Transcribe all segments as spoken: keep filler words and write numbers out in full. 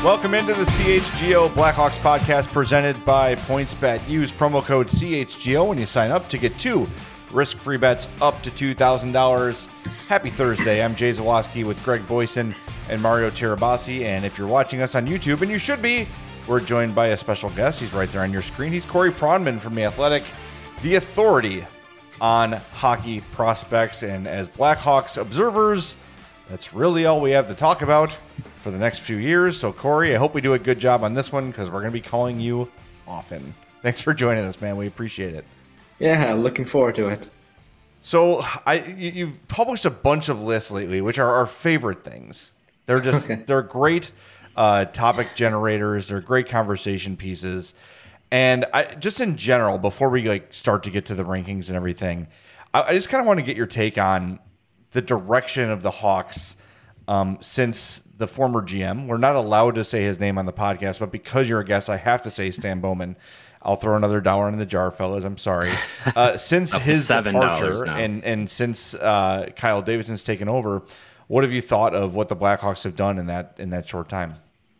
Welcome into the C H G O Blackhawks podcast presented by PointsBet. Use promo code C H G O when you sign up to get two risk-free bets up to two thousand dollars. Happy Thursday. I'm Jay Zawaski with Greg Boyson and Mario Tirabassi. And if you're watching us on YouTube, and you should be, we're joined by a special guest. He's right there on your screen. He's Corey Pronman from The Athletic, the authority on hockey prospects. And as Blackhawks observers, that's really all we have to talk about for the next few years. So, Corey, I hope we do a good job on this one because we're going to be calling you often. Thanks for joining us, man. We appreciate it. Yeah, looking forward to it. So, I you've published a bunch of lists lately, which are our favorite things. They're just okay. They're great uh, topic generators. They're great conversation pieces. And I, just in general, before we like start to get to the rankings and everything, I, I just kind of want to get your take on the direction of the Hawks um, since the former G M. We're not allowed to say his name on the podcast, but because you're a guest, I have to say Stan Bowman. I'll throw another dollar in the jar, fellas. I'm sorry. Uh, since his departure and, and since uh, Kyle Davidson's taken over, what have you thought of what the Blackhawks have done in that in that short time?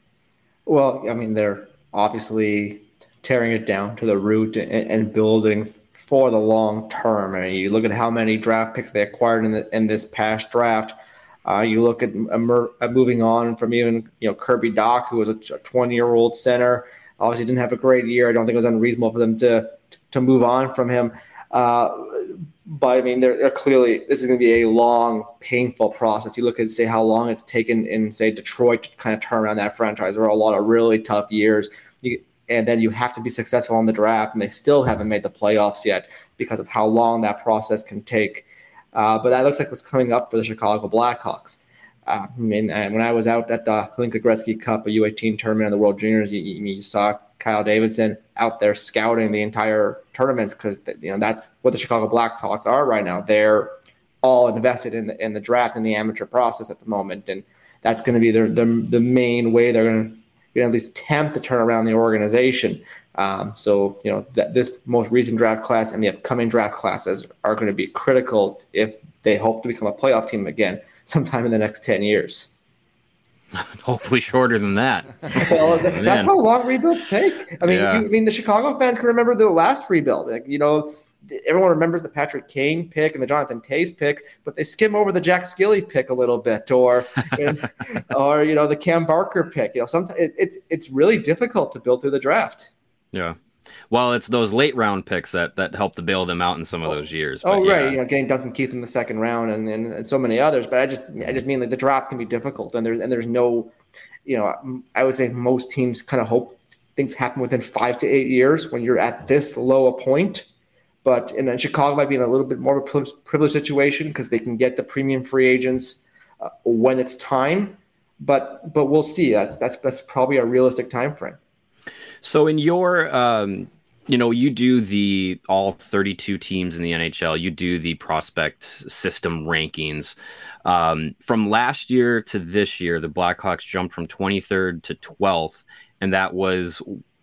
Well, I mean, they're obviously tearing it down to the root and, and building for the long term. I mean, you look at how many draft picks they acquired in, the, in this past draft. Uh, you look at uh, moving on from even you know Kirby Dach, who was a twenty-year-old center. Obviously, didn't have a great year. I don't think it was unreasonable for them to to move on from him. Uh, but I mean, they're, they're clearly this is going to be a long, painful process. You look at say how long it's taken in say Detroit to kind of turn around that franchise. There were a lot of really tough years. You, and then you have to be successful in the draft, and they still haven't made the playoffs yet because of how long that process can take. Uh, but that looks like what's coming up for the Chicago Blackhawks. Uh, I mean, and when I was out at the Hlinka Gretzky Cup, a U eighteen tournament in the World Juniors, you, you saw Kyle Davidson out there scouting the entire tournament because you know that's what the Chicago Blackhawks are right now. They're all invested in the in the draft and the amateur process at the moment, and that's going to be their, the the main way they're going to at least attempt to turn around the organization. Um, so, you know, that this most recent draft class and the upcoming draft classes are going to be critical if they hope to become a playoff team again sometime in the next ten years. Hopefully shorter than that. Well, th- that's how long rebuilds take. I mean, yeah. you, I mean, the Chicago fans can remember the last rebuild. Like, you know, everyone remembers the Patrick Kane pick and the Jonathan Toews pick, but they skim over the Jack Skilly pick a little bit, or, or you know, the Cam Barker pick. You know, sometimes it, it's it's really difficult to build through the draft. Yeah. Well, it's those late round picks that, that help to bail them out in some of those years. But oh, yeah. right. You know, getting Duncan Keith in the second round and, and, and so many others. But I just I just mean like the draft can be difficult and there's and there's no, you know, I would say most teams kind of hope things happen within five to eight years when you're at this low a point. But and then Chicago might be in a little bit more of a privileged situation because they can get the premium free agents uh, when it's time. But but we'll see. That's that's that's probably a realistic time frame. So in your, um, you know, you do the all thirty-two teams in the N H L, you do the prospect system rankings. Um, from last year to this year, the Blackhawks jumped from twenty-third to twelfth, and that was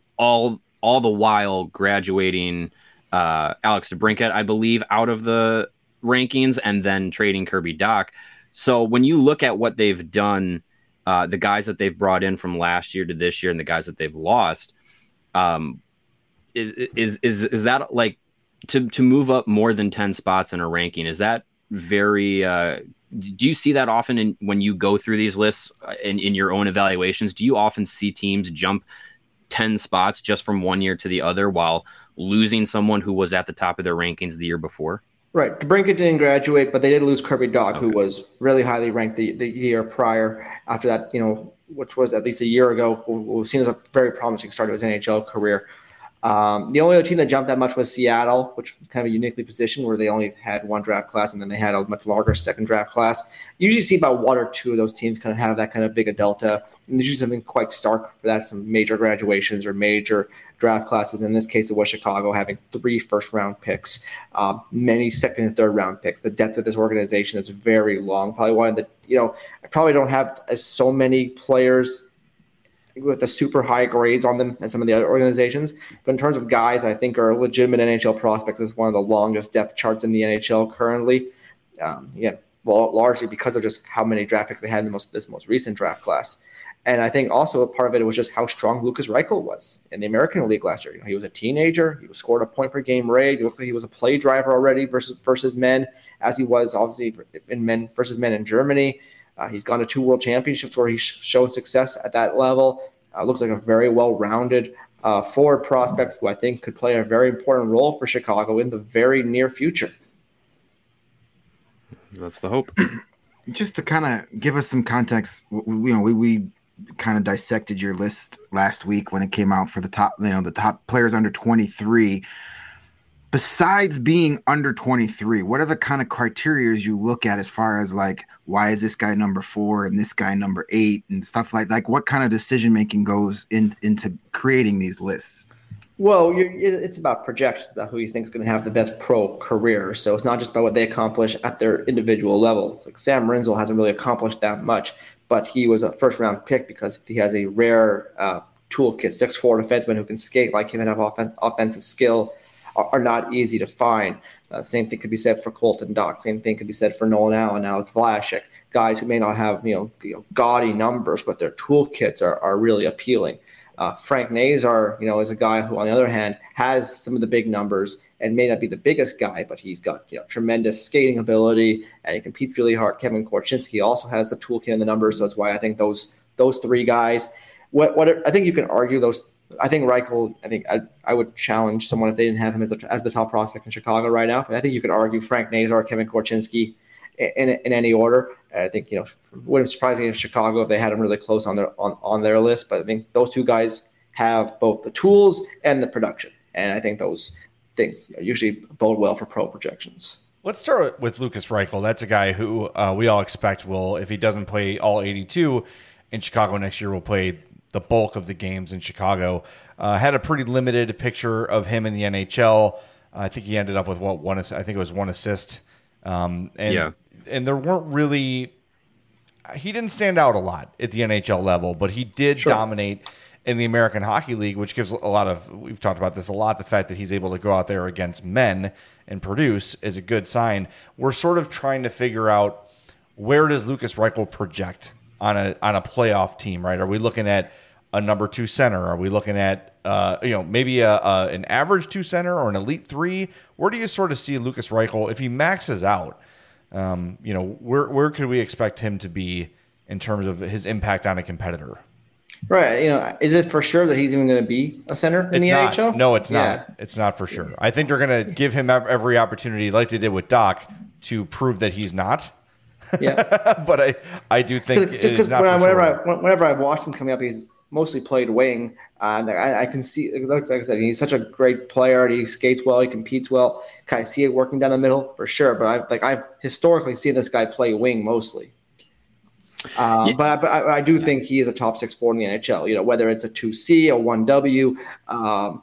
all all the while graduating uh, Alex DeBrincat, I believe, out of the rankings and then trading Kirby Dach. So when you look at what they've done, uh, the guys that they've brought in from last year to this year and the guys that they've lost, Um, is, is, is, is that like to, to move up more than ten spots in a ranking? Is that very, uh, do you see that often in, when you go through these lists in, in your own evaluations? Do you often see teams jump ten spots just from one year to the other while losing someone who was at the top of their rankings the year before? Right. DeBrincat didn't graduate, but they did lose Kirby Dach, okay, who was really highly ranked the, the year prior. After that, you know, which was at least a year ago, was seen as a very promising start to his N H L career. Um, the only other team that jumped that much was Seattle, which was kind of uniquely positioned where they only had one draft class and then they had a much longer second draft class. You usually see about one or two of those teams kind of have that kind of big a delta. And there's usually something quite stark for that, some major graduations or major draft classes. In this case, it was Chicago having three first round picks, um, many second and third round picks. The depth of this organization is very long. Probably one of the, you know, I probably don't have so many players with the super high grades on them as some of the other organizations. But in terms of guys I think are legitimate N H L prospects, is one of the longest depth charts in the N H L currently. Um, yeah, well, largely because of just how many draft picks they had in the most this most recent draft class. And I think also part of it was just how strong Lukas Reichel was in the American League last year. You know, he was a teenager. He was scored a point per game rate. He looked like he was a play driver already versus versus men, as he was obviously in men versus men in Germany. Uh, he's gone to two world championships where he's showed success at that level. Uh, looks like a very well-rounded uh, forward prospect who I think could play a very important role for Chicago in the very near future. That's the hope. Just to kind of give us some context, we, you know, we we kind of dissected your list last week when it came out for the top, you know, the top players under twenty-three. Besides being under twenty-three, what are the kind of criteria you look at as far as like, why is this guy number four and this guy number eight and stuff like like what kind of decision making goes in, into creating these lists? Well, you're, it's about projections, about who you think is going to have the best pro career. So it's not just about what they accomplish at their individual level. It's like Sam Rinzel hasn't really accomplished that much, but he was a first-round pick because he has a rare uh, toolkit. six foot four defenseman who can skate like him and have offen- offensive skill are, are not easy to find. Uh, same thing could be said for Colton Dach. Same thing could be said for Nolan Allen. Now it's Vlasic. Guys who may not have you know, you know gaudy numbers, but their toolkits are, are really appealing. Uh, Frank Nazar, you know, is a guy who, on the other hand, has some of the big numbers and may not be the biggest guy, but he's got you know tremendous skating ability and he competes really hard. Kevin Korchinski also has the toolkit and the numbers, so that's why I think those those three guys. What what I think you can argue those. I think Reichel. I think I I would challenge someone if they didn't have him as the, as the top prospect in Chicago right now. But I think you could argue Frank Nazar, Kevin Korchinski, in in any order. I think, you know, wouldn't surprise me in Chicago if they had him really close on their on, on their list. But I think those two guys have both the tools and the production. And I think those things usually bode well for pro projections. Let's start with Lukas Reichel. That's a guy who uh, we all expect will, if he doesn't play all eighty-two in Chicago next year, will play the bulk of the games in Chicago. Uh, had a pretty limited picture of him in the N H L. I think he ended up with what one? I think it was one assist. Um, and yeah. And there weren't really, he didn't stand out a lot at the N H L level, but he did sure. dominate in the American Hockey League, which gives a lot of, we've talked about this a lot, the fact that he's able to go out there against men and produce is a good sign. We're sort of trying to figure out, where does Lukas Reichel project on a on a playoff team, right? Are we looking at a number two center? Are we looking at, uh, you know, maybe a, a an average two center or an elite three? Where do you sort of see Lukas Reichel if he maxes out? Um, you know, where where could we expect him to be in terms of his impact on a competitor? Right. You know, is it for sure that he's even going to be a center in it's the not. N H L? No, it's yeah. not. It's not for sure. I think they're going to give him every opportunity, like they did with Dach, to prove that he's not. Yeah. But I, I do think just because when whenever sure. I whenever I've watched him coming up, he's mostly played wing, and I, I can see, like I said, he's such a great player. He skates well, he competes well. Can I see it working down the middle for sure? But I like I've historically seen this guy play wing mostly. Um, yeah. But I, but I, I do yeah. think he is a top six forward in the N H L. You know, whether it's a two C, a one W, um,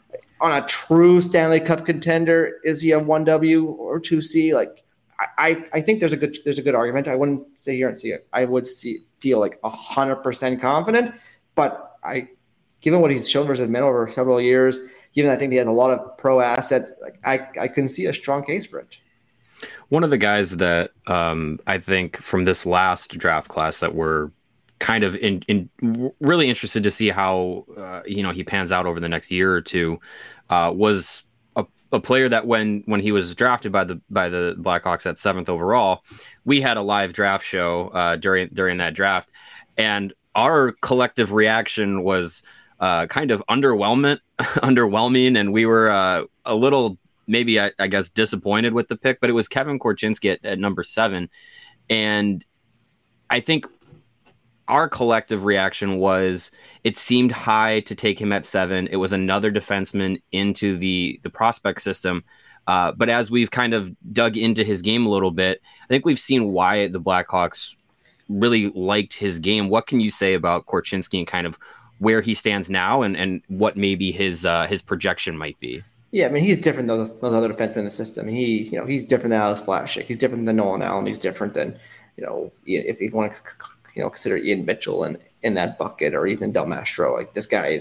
on a true Stanley Cup contender, is he a one W or two C? Like, I, I think there's a good there's a good argument. I wouldn't sit here and see it. I would see feel like a hundred percent confident. But I, given what he's shown versus men over several years, given I think he has a lot of pro assets, like I, I can see a strong case for it. One of the guys that um, I think from this last draft class that we're kind of in, in really interested to see how uh, you know he pans out over the next year or two uh, was a, a player that when when he was drafted by the by the Blackhawks at seventh overall, we had a live draft show uh, during during that draft, and our collective reaction was uh, kind of underwhelming, underwhelming, and we were uh, a little, maybe I, I guess, disappointed with the pick. But it was Kevin Korchinski at, at number seven, and I think our collective reaction was it seemed high to take him at seven. It was another defenseman into the the prospect system. Uh, but as we've kind of dug into his game a little bit, I think we've seen why the Blackhawks really liked his game. What can you say about Korchinski and kind of where he stands now and, and what maybe his uh, his projection might be? Yeah, I mean, he's different than those, those other defensemen in the system. He, you know, he's different than Alex Vlasic. He's different than Nolan Allen. He's different than, you know, if you want to, you know, consider Ian Mitchell in, in that bucket or Ethan Del Mastro. Like, this guy is a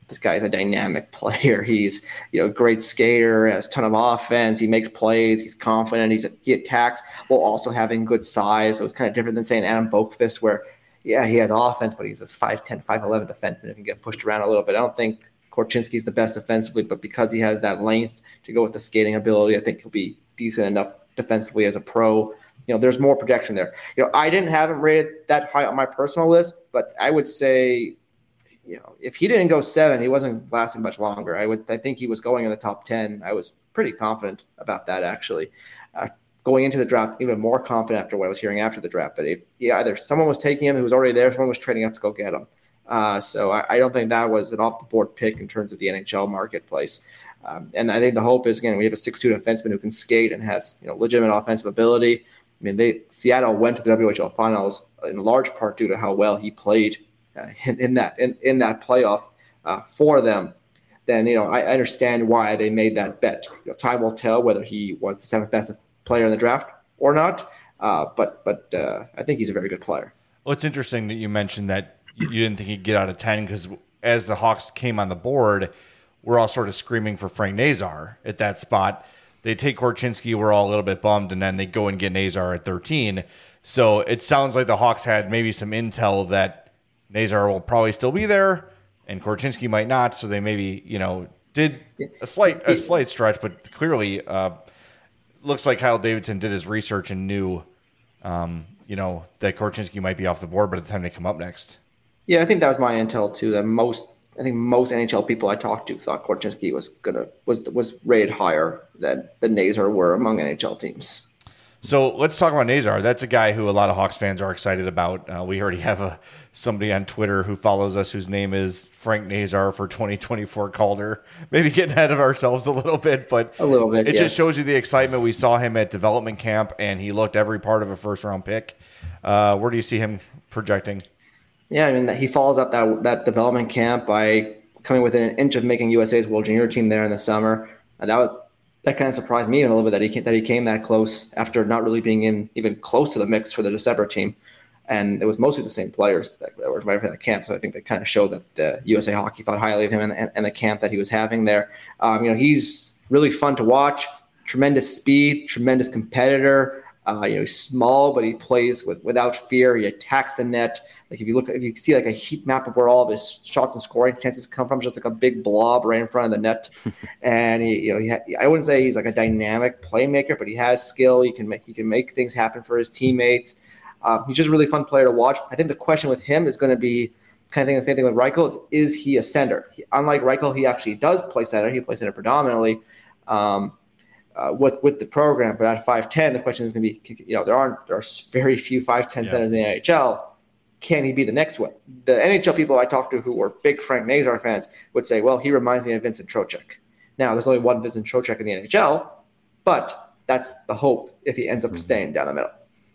this guy is a dynamic player. He's, you know, a great skater, has a ton of offense. He makes plays. He's confident. He's he attacks while also having good size. So it's kind of different than saying Adam Boqvist, where, yeah, he has offense, but he's this five ten, five eleven defenseman who can get pushed around a little bit. I don't think Korchinski's the best defensively, but because he has that length to go with the skating ability, I think he'll be decent enough defensively as a pro. You know, there's more projection there. You know, I didn't have him rated that high on my personal list, but I would say, you know, if he didn't go seven, he wasn't lasting much longer. I would, I think he was going in the top ten. I was pretty confident about that, actually. Uh, going into the draft, even more confident after what I was hearing after the draft, that if yeah, either someone was taking him who was already there, someone was trading up to go get him. Uh, so I, I don't think that was an off-the-board pick in terms of the N H L marketplace. Um, and I think the hope is, again, we have a six two defenseman who can skate and has, you know, legitimate offensive ability. I mean, they Seattle went to the W H L finals in large part due to how well he played uh, in, in that in, in that playoff uh, for them. Then, you know, I understand why they made that bet. You know, time will tell whether he was the seventh best player in the draft or not. Uh, but but uh, I think he's a very good player. Well, it's interesting that you mentioned that you didn't think he'd get out of ten, because as the Hawks came on the board, we're all sort of screaming for Frank Nazar at that spot. They take Korchinski, we're all a little bit bummed, and then they go and get Nazar at thirteen. So it sounds like the Hawks had maybe some intel that Nazar will probably still be there and Korchinski might not. So they maybe, you know, did a slight a slight stretch, but clearly uh, looks like Kyle Davidson did his research and knew, um, you know, that Korchinski might be off the board by the time they come up next. Yeah, I think that was my intel too. That most, I think most N H L people I talked to thought Korchinski was gonna was was rated higher than the Nazar were among N H L teams. So let's talk about Nazar. That's a guy who a lot of Hawks fans are excited about. Uh, we already have a somebody on Twitter who follows us whose name is Frank Nazar for twenty twenty-four Calder. Maybe getting ahead of ourselves a little bit, but a little bit. It yes. just shows you the excitement. We saw him at development camp, and he looked every part of a first round pick. Uh, where do you see him projecting? Yeah, I mean, he follows up that that development camp by coming within an inch of making U S A's World Junior team there in the summer. And that was, that kind of surprised me a little bit that he came, that he came that close after not really being in even close to the mix for the December team. And it was mostly the same players that, that were right for that camp. So I think that kind of showed that the U S A Hockey thought highly of him and, and, and the camp that he was having there. Um, you know, he's really fun to watch. Tremendous speed, tremendous competitor. Uh, you know, he's small, but he plays with without fear. He attacks the net. Like if you look, if you see like a heat map of where all of his shots and scoring chances come from, just like a big blob right in front of the net. And he, you know, he ha- I wouldn't say he's like a dynamic playmaker, but he has skill. He can make he can make things happen for his teammates. Uh, he's just a really fun player to watch. I think the question with him is going to be kind of thing the same thing with Reichel is is he a center? He, unlike Reichel, he actually does play center. He plays center predominantly. Um, Uh, with with the program, but at five ten, the question is going to be, you know, there aren't there are very few five ten yeah. centers in the N H L. Can he be the next one? The N H L people I talked to who were big Frank Nazar fans would say, well, he reminds me of Vincent Trocheck. Now, there's only one Vincent Trocheck in the N H L, but that's the hope if he ends up mm-hmm. staying down the middle.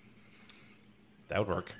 That would work.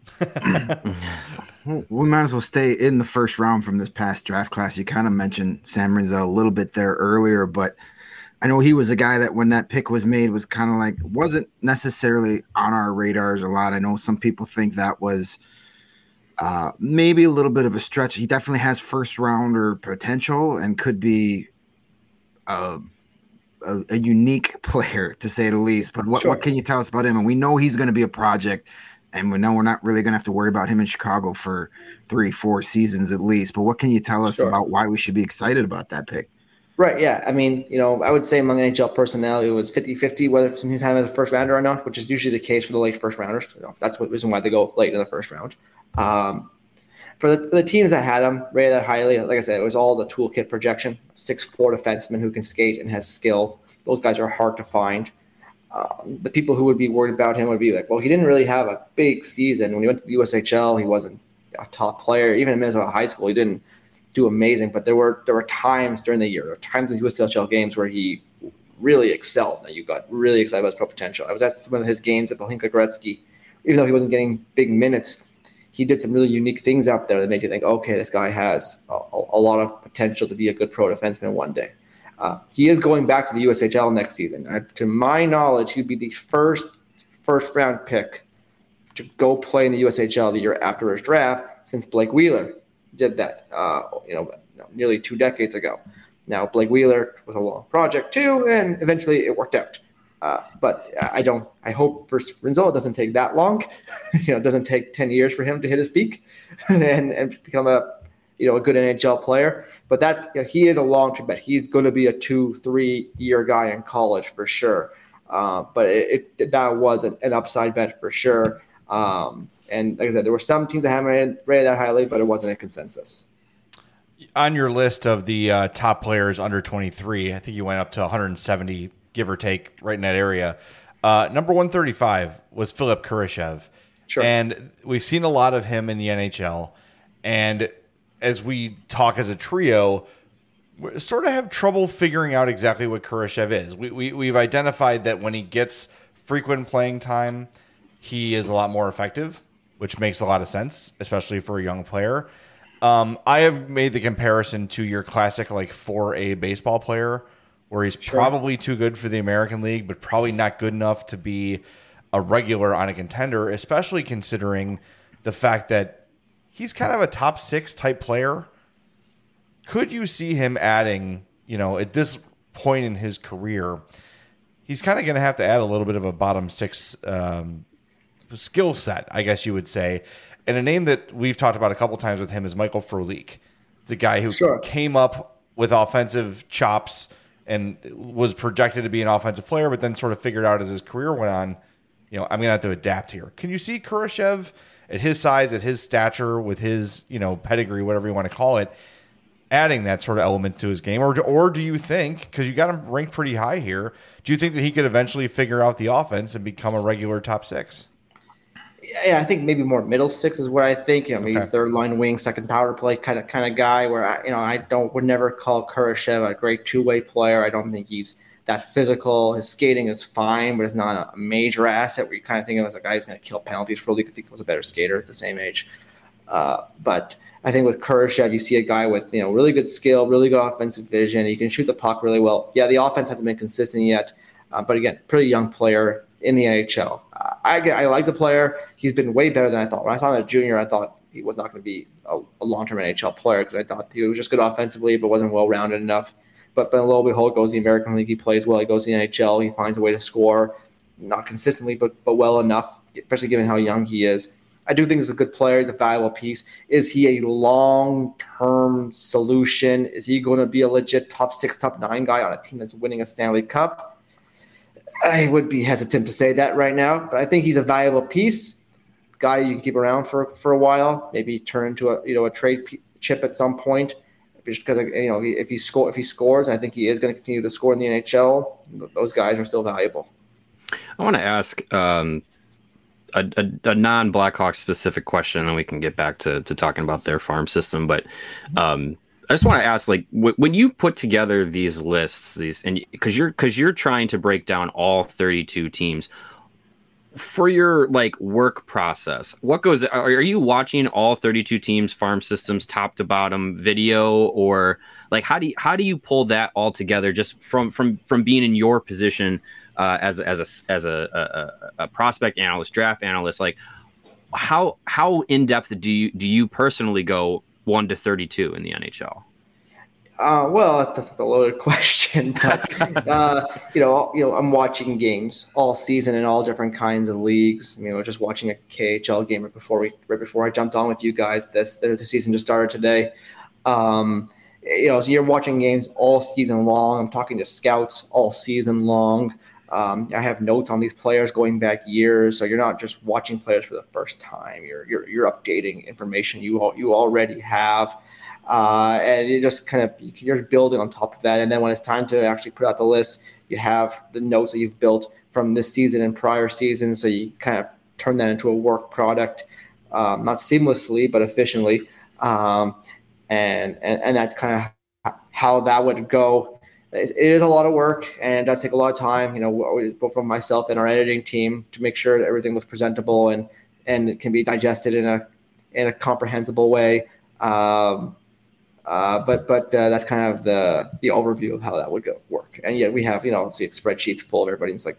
We might as well stay in the first round from this past draft class. You kind of mentioned Sam Rinzel a little bit there earlier, but I know he was a guy that when that pick was made was kind of like wasn't necessarily on our radars a lot. I know some people think that was uh, maybe a little bit of a stretch. He definitely has first rounder potential and could be a, a, a unique player to say the least. But what, sure. what can you tell us about him? And we know he's going to be a project, and we know we're not really going to have to worry about him in Chicago for three, four seasons at least. But what can you tell us sure. about why we should be excited about that pick? Right, yeah. I mean, you know, I would say among N H L personnel, it was fifty-fifty whether he's had him as a first rounder or not, which is usually the case for the late first rounders. You know, that's the reason why they go late in the first round. Um, for, the, for the teams that had him rated that highly, like I said, it was all the toolkit projection. six foot four defenseman who can skate and has skill. Those guys are hard to find. Um, the people who would be worried about him would be like, well, he didn't really have a big season. When he went to the U S H L, he wasn't a top player. Even in Minnesota high school, he didn't do amazing, but there were there were times during the year, there were times in U S H L games where he really excelled, and you got really excited about his pro potential. I was at some of his games at the Hlinka Gretzky. Even though he wasn't getting big minutes, he did some really unique things out there that made you think, okay, this guy has a, a lot of potential to be a good pro defenseman one day. Uh, he is going back to the U S H L next season. I, to my knowledge, he'd be the first first round pick to go play in the U S H L the year after his draft since Blake Wheeler did that. Uh, you know, know, nearly two decades ago. Now, Blake Wheeler was a long project too, and eventually it worked out. Uh, but I don't. I hope for Rinzo it doesn't take that long. you know, it doesn't take ten years for him to hit his peak and, and become a you know a good N H L player. But that's you know, he is a long term bet. He's going to be a two, three year guy in college for sure. Uh, but it, it that was an, an upside bet for sure. Um, and like I said, there were some teams that haven't rated, rated that highly, but it wasn't a consensus. On your list of the uh, top players under twenty-three, I think you went up to one hundred seventy, give or take, right in that area. Uh, number one thirty-five was Philip Kurashev. Sure. And we've seen a lot of him in the N H L. And as we talk as a trio, we sort of have trouble figuring out exactly what Kurashev is. We, we, we've identified that when he gets frequent playing time, he is a lot more effective, which makes a lot of sense, especially for a young player. Um, I have made the comparison to your classic like four A baseball player, where he's sure. probably too good for the American League, but probably not good enough to be a regular on a contender, especially considering the fact that he's kind of a top six type player. Could you see him adding, you know, at this point in his career, he's kind of going to have to add a little bit of a bottom six um, skill set, I guess you would say. And a name that we've talked about a couple times with him is Michael Frolik. It's a guy who sure. came up with offensive chops and was projected to be an offensive player, but then sort of figured out as his career went on, you know, I'm going to have to adapt here. Can you see Kurashev at his size, at his stature, with his, you know, pedigree, whatever you want to call it, adding that sort of element to his game? Or, or do you think, because you got him ranked pretty high here, do you think that he could eventually figure out the offense and become a regular top six? Yeah, I think maybe more middle six is what I think. You know, maybe okay. third line wing, second power play kind of kind of guy. Where I, you know, I don't would never call Kurashev a great two way player. I don't think he's that physical. His skating is fine, but it's not a major asset. Where you kind of think of him as a guy who's going to kill penalties. For League, I think he was a better skater at the same age. Uh, but I think with Kurashev, you see a guy with you know really good skill, really good offensive vision. He can shoot the puck really well. Yeah, the offense hasn't been consistent yet, uh, but again, pretty young player in the N H L. Uh, I I like the player. He's been way better than I thought. When I saw him as a junior, I thought he was not going to be a, a long-term N H L player because I thought he was just good offensively but wasn't well-rounded enough. But, but lo and behold, goes to the American League. He plays well. He goes to the N H L. He finds a way to score, not consistently, but but well enough, especially given how young he is. I do think he's a good player. He's a valuable piece. Is he a long-term solution? Is he going to be a legit top six, top nine guy on a team that's winning a Stanley Cup? I would be hesitant to say that right now, but I think he's a valuable piece, guy you can keep around for, for a while. Maybe turn into a you know a trade p- chip at some point, just because you know if he score if he scores, and I think he is going to continue to score in the N H L. Those guys are still valuable. I want to ask um, a, a, a non-Blackhawks specific question, and we can get back to to talking about their farm system, but. Um, I just want to ask, like, w- when you put together these lists, these, and because you're because you're trying to break down all thirty-two teams for your like work process, what goes? Are, are you watching all thirty-two teams, farm systems, top to bottom video, or like how do you, how do you pull that all together just from from from being in your position uh, as as a as a, a, a prospect analyst, draft analyst? Like, how how in depth do you do you personally go? one to thirty-two in the N H L? Uh, well, that's, that's a loaded question, but uh, you know, you know, I'm watching games all season in all different kinds of leagues. I mean, I was just watching a K H L game right before we, right before I jumped on with you guys. This, the season just started today. Um, you know, so you're watching games all season long. I'm talking to scouts all season long. Um, I have notes on these players going back years, so you're not just watching players for the first time. You're you're, you're updating information you all, you already have, uh, and you just kind of you're building on top of that. And then when it's time to actually put out the list, you have the notes that you've built from this season and prior seasons, so you kind of turn that into a work product, um, not seamlessly but efficiently, um, and, and and that's kind of how that would go. It is a lot of work and it does take a lot of time, you know, both from myself and our editing team to make sure that everything looks presentable and, and it can be digested in a in a comprehensible way. Um, uh, but but uh, that's kind of the the overview of how that would go work. And yet we have, you know, obviously spreadsheets full of everybody's like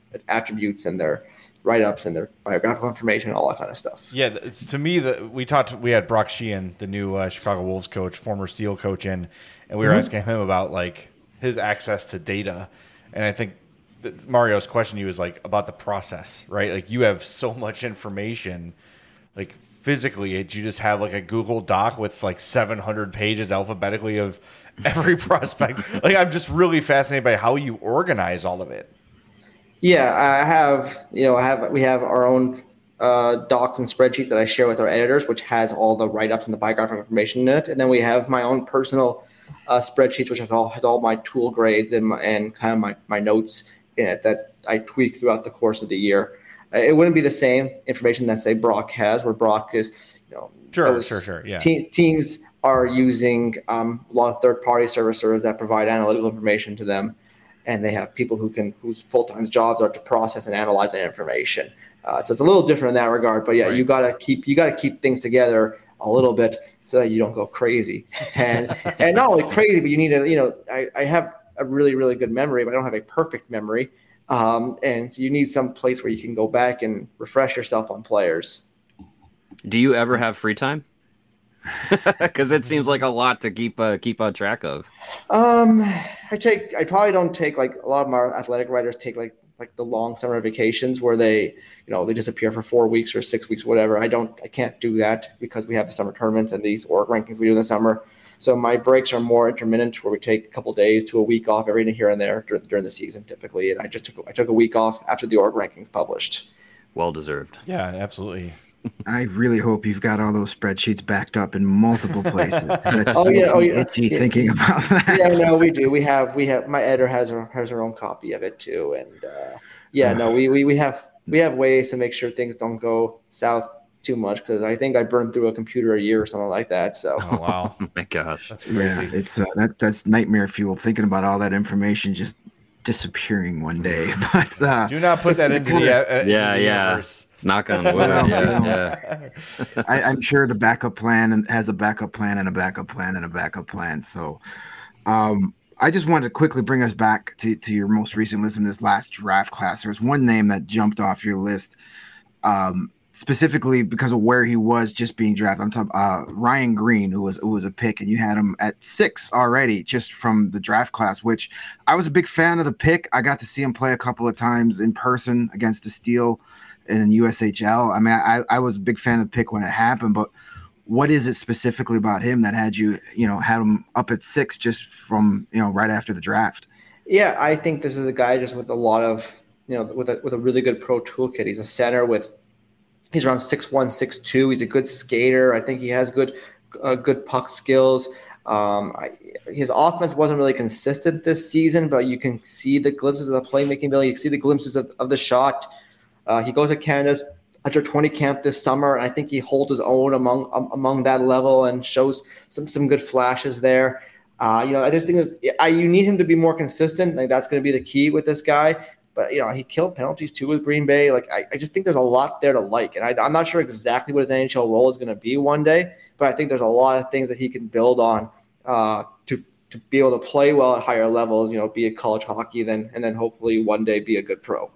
attributes and their write-ups and their biographical information, all that kind of stuff. Yeah, it's, to me, that we talked. We had Brock Sheehan, the new uh, Chicago Wolves coach, former Steel coach, in, and we were mm-hmm. asking him about like his access to data. And I think that Mario's question to you is like about the process, right? Like you have so much information, like physically, do you just have like a Google Doc with like seven hundred pages alphabetically of every prospect? Like I'm just really fascinated by how you organize all of it. Yeah, I have, you know, I have, we have our own uh, docs and spreadsheets that I share with our editors, which has all the write-ups and the biographical information in it. And then we have my own personal uh, spreadsheets, which has all, has all my tool grades and my, and kind of my, my notes in it that I tweak throughout the course of the year. It wouldn't be the same information that say Brock has, where Brock is, you know, sure, sure, sure. Yeah. Te- teams are using um, a lot of third-party servicers that provide analytical information to them. And they have people who can whose full-time jobs are to process and analyze that information. Uh, so it's a little different in that regard. But yeah, right. you gotta keep you gotta keep things together a little bit so that you don't go crazy. And and not only crazy, but you need to, you know, I, I have a really, really good memory, but I don't have a perfect memory. Um, and so you need some place where you can go back and refresh yourself on players. Do you ever have free time? Because it seems like a lot to keep uh, keep on track of. Um, I take. I probably don't take like a lot of our athletic writers take like like the long summer vacations where they, you know, they disappear for four weeks or six weeks, whatever. I don't. I can't do that because we have the summer tournaments and these org rankings we do in the summer. So my breaks are more intermittent, where we take a couple days to a week off every here and there during, during the season, typically. And I just took I took a week off after the org rankings published. Well deserved. Yeah, absolutely. I really hope you've got all those spreadsheets backed up in multiple places. That oh yeah, oh yeah. Itchy yeah. Thinking about that. Yeah, no, we do. We have, we have. My editor has her has her own copy of it too, and uh, yeah, no, we, we we have we have ways to make sure things don't go south too much because I think I burned through a computer a year or something like that. So, oh wow, oh my gosh, that's crazy. Yeah, it's uh, that that's nightmare fuel. Thinking about all that information just disappearing one day. But uh, do not put that into the uh, yeah into the yeah. universe. Knock on wood. Well, yeah, you know, yeah. I, I'm sure the backup plan and has a backup plan and a backup plan and a backup plan. So, um, I just wanted to quickly bring us back to, to your most recent list in this last draft class. There's one name that jumped off your list, um, specifically because of where he was just being drafted. I'm talking uh, Ryan Green, who was who was a pick, and you had him at six already just from the draft class, which I was a big fan of the pick. I got to see him play a couple of times in person against the Steel in U S H L. I mean, I, I was a big fan of the pick when it happened, but what is it specifically about him that had you, you know, had him up at six just from, you know, right after the draft? Yeah, I think this is a guy just with a lot of, you know, with a with a really good pro toolkit. He's a center with, he's around six one, six two. He's a good skater. I think he has good, uh, good puck skills. Um, I, his offense wasn't really consistent this season, but you can see the glimpses of the playmaking ability. You can see the glimpses of, of the shot. Uh, he goes to Canada's under twenty camp this summer, and I think he holds his own among um, among that level and shows some some good flashes there. Uh, you know, I just think there's, I, you need him to be more consistent. Like that's going to be the key with this guy. But you know, he killed penalties too with Green Bay. Like I, I just think there's a lot there to like, and I, I'm not sure exactly what his N H L role is going to be one day. But I think there's a lot of things that he can build on uh, to to be able to play well at higher levels. You know, be a college hockey, then and then hopefully one day be a good pro.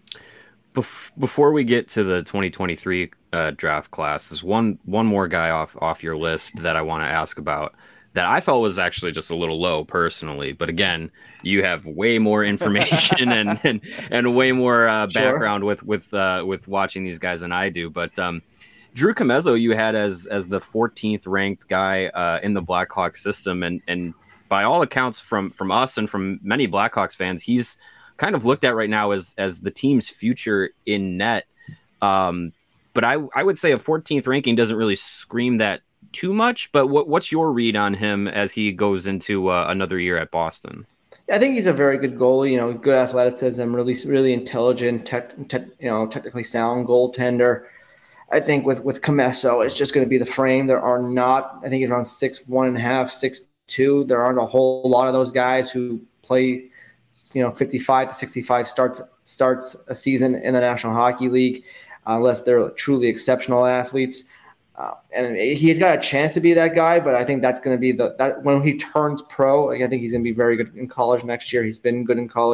Before we get to the twenty twenty-three uh, draft class, there's one one more guy off off your list that I want to ask about that I felt was actually just a little low personally. But again, you have way more information and, and and way more uh, background sure. with with uh, with watching these guys than I do. But um, Drew Commesso, you had as as the fourteenth ranked guy uh, in the Blackhawks system, and and by all accounts from from us and from many Blackhawks fans, he's kind of looked at right now as as the team's future in net. Um, but I, I would say a fourteenth ranking doesn't really scream that too much. But what what's your read on him as he goes into uh, another year at Boston? I think he's a very good goalie, you know, good athleticism, really, really intelligent, tech, tech, you know, technically sound goaltender. I think with, with Commesso, it's just going to be the frame. There are not, I think he's around six, one and a half, six, two. There aren't a whole lot of those guys who play, you know, fifty-five to sixty-five starts starts a season in the National Hockey League, uh, unless they're truly exceptional athletes. Uh, and he's got a chance to be that guy, but I think that's going to be the that when he turns pro. Like, I think he's going to be very good in college next year. He's been good in college. Uh,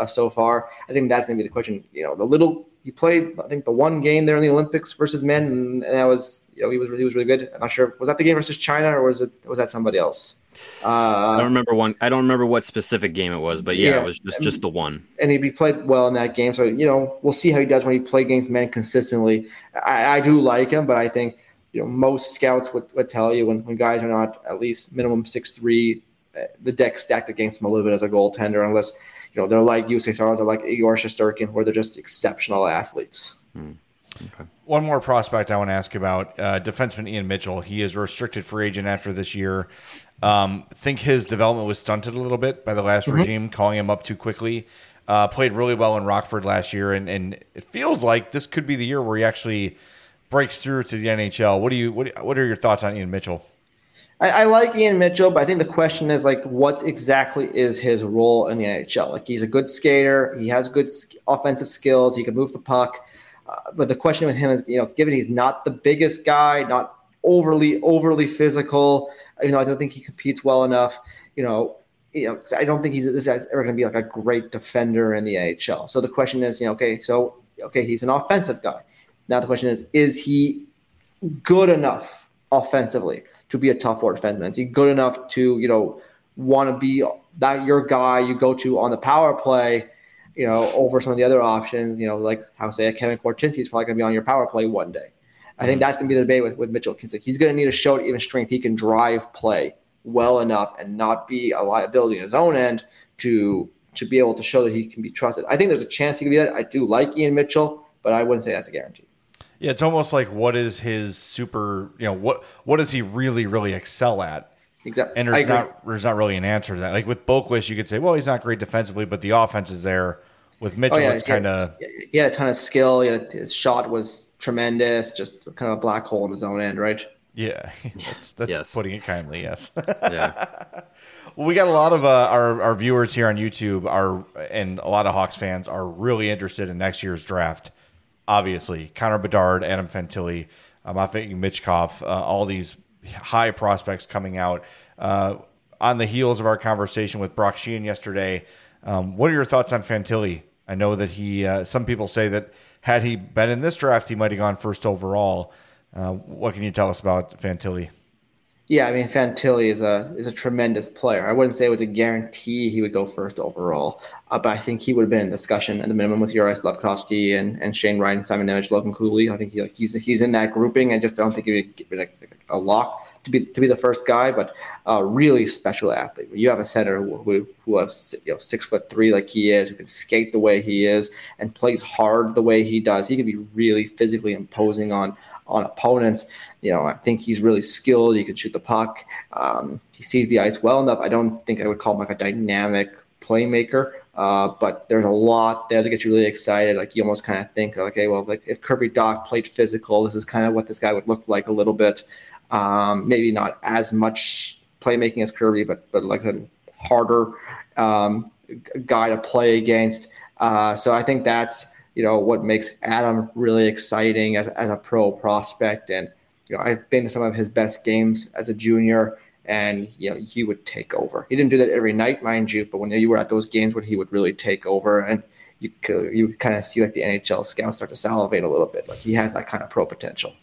uh, so far. I think that's going to be the question. You know, the little he played, I think the one game there in the Olympics versus men, and, and that was, you know, he was he was really good. I'm not sure, was that the game versus China or was it was that somebody else? Uh, I don't remember one. I don't remember what specific game it was, but yeah, yeah it was just, just the one. And he played well in that game. So, you know, we'll see how he does when he plays against men consistently. I, I do like him, but I think, you know, most scouts would, would tell you when, when guys are not at least minimum six three, the deck stacked against them a little bit as a goaltender, unless, you know, they're like U S A Stars or like Igor Shesterkin, where they're just exceptional athletes. Hmm. Okay. One more prospect I want to ask about, uh, defenseman Ian Mitchell. He is a restricted free agent after this year. Um, think his development was stunted a little bit by the last mm-hmm. regime, calling him up too quickly. Uh, played really well in Rockford last year, and, and it feels like this could be the year where he actually breaks through to the N H L. What do you what What are your thoughts on Ian Mitchell? I, I like Ian Mitchell, but I think the question is like, what exactly is his role in the N H L? Like, he's a good skater, he has good offensive skills, he can move the puck. Uh, but the question with him is, you know, given he's not the biggest guy, not overly overly physical, you know, I don't think he competes well enough. You know, you know, I don't think he's this guy's ever going to be like a great defender in the N H L. So the question is, you know, okay, so okay, he's an offensive guy. Now the question is, is he good enough offensively to be a top four defenseman? Is he good enough to, you know, want to be that your guy you go to on the power play, you know, over some of the other options, you know, like how say Kevin Korchinski is probably going to be on your power play one day. I think that's going to be the debate with, with Mitchell. He's going to need to show even strength. He can drive play well enough and not be a liability on his own end to to be able to show that he can be trusted. I think there's a chance he can be that. I do like Ian Mitchell, but I wouldn't say that's a guarantee. Yeah, it's almost like what is his super, you know, what what does he really, really excel at? Exactly. And there's not there's not really an answer to that. Like with Boquist, you could say, well, he's not great defensively, but the offense is there. With Mitchell, oh, yeah, it's kind of he had a ton of skill. He had, his shot was tremendous, just kind of a black hole in his own end, right? Yeah, that's, that's yes. putting it kindly. Yes. Yeah. Well, we got a lot of uh, our our viewers here on YouTube are, and a lot of Hawks fans are really interested in next year's draft. Obviously, Connor Bedard, Adam Fantilli, um, I'm thinking Michkov, uh, all these high prospects coming out uh, on the heels of our conversation with Brock Sheehan yesterday. Um, what are your thoughts on Fantilli? I know that he, uh, some people say that had he been in this draft, he might have gone first overall. Uh, what can you tell us about Fantilli? Yeah, I mean, Fantilli is a is a tremendous player. I wouldn't say it was a guarantee he would go first overall, uh, but I think he would have been in discussion at the minimum with Juraj Slafkovsky and, and Shane Wright, Simon Nemec, Logan Cooley. I think he, like, he's he's in that grouping. I just don't think he would be like a lock to be to be the first guy, but a really special athlete. You have a center who who, who has, you know, six foot three like he is, who can skate the way he is, and plays hard the way he does. He can be really physically imposing on on opponents. You know, I think he's really skilled. He can shoot the puck. Um, he sees the ice well enough. I don't think I would call him like a dynamic playmaker, uh, but there's a lot there that gets you really excited. Like, you almost kind of think, like, okay, well, like if Kirby Dach played physical, this is kind of what this guy would look like a little bit. Um, maybe not as much playmaking as Kirby, but but like a harder um, guy to play against. Uh, so I think that's, you know, what makes Adam really exciting as, as a pro prospect. And, you know, I've been to some of his best games as a junior, and, you know, he would take over. He didn't do that every night, mind you, but when you were at those games when he would really take over, and you could, you kind of see like the N H L scouts start to salivate a little bit. Like, he has that kind of pro potential.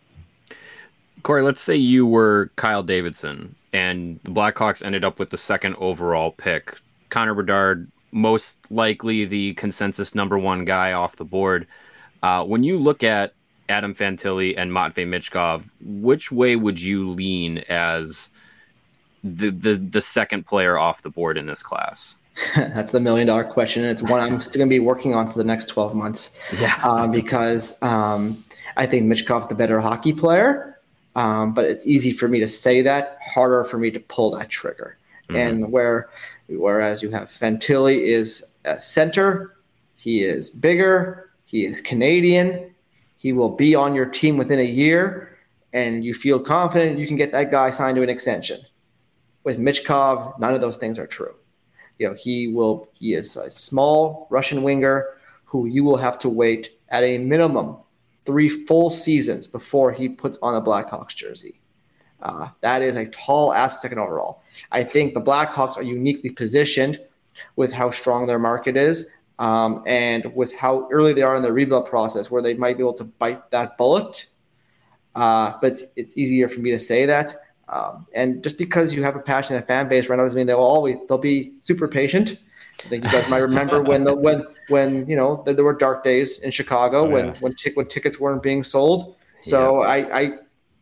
Corey, let's say you were Kyle Davidson and the Blackhawks ended up with the second overall pick. Connor Bedard, most likely the consensus number one guy off the board. Uh, when you look at Adam Fantilli and Matvei Michkov, which way would you lean as the, the, the second player off the board in this class? That's the million dollar question. And it's one I'm still going to be working on for the next twelve months. Yeah. Um, because um, I think Michkov's the better hockey player. Um, but it's easy for me to say that, harder for me to pull that trigger. Mm-hmm. And where, whereas you have Fantilli is a center, he is bigger, he is Canadian, he will be on your team within a year, and you feel confident you can get that guy signed to an extension. With Michkov, none of those things are true. You know, he will. He is a small Russian winger who you will have to wait at a minimum three full seasons before he puts on a Blackhawks jersey. Uh, that is a tall ass second overall. I think the Blackhawks are uniquely positioned with how strong their market is Um, and with how early they are in the rebuild process, where they might be able to bite that bullet. Uh, but it's, it's easier for me to say that. Um, and just because you have a passionate fan base right now doesn't mean they'll always they'll be super patient. I think you guys might remember when the, when when you know there were dark days in Chicago oh, when yeah. when, t- when tickets weren't being sold. So yeah. I, I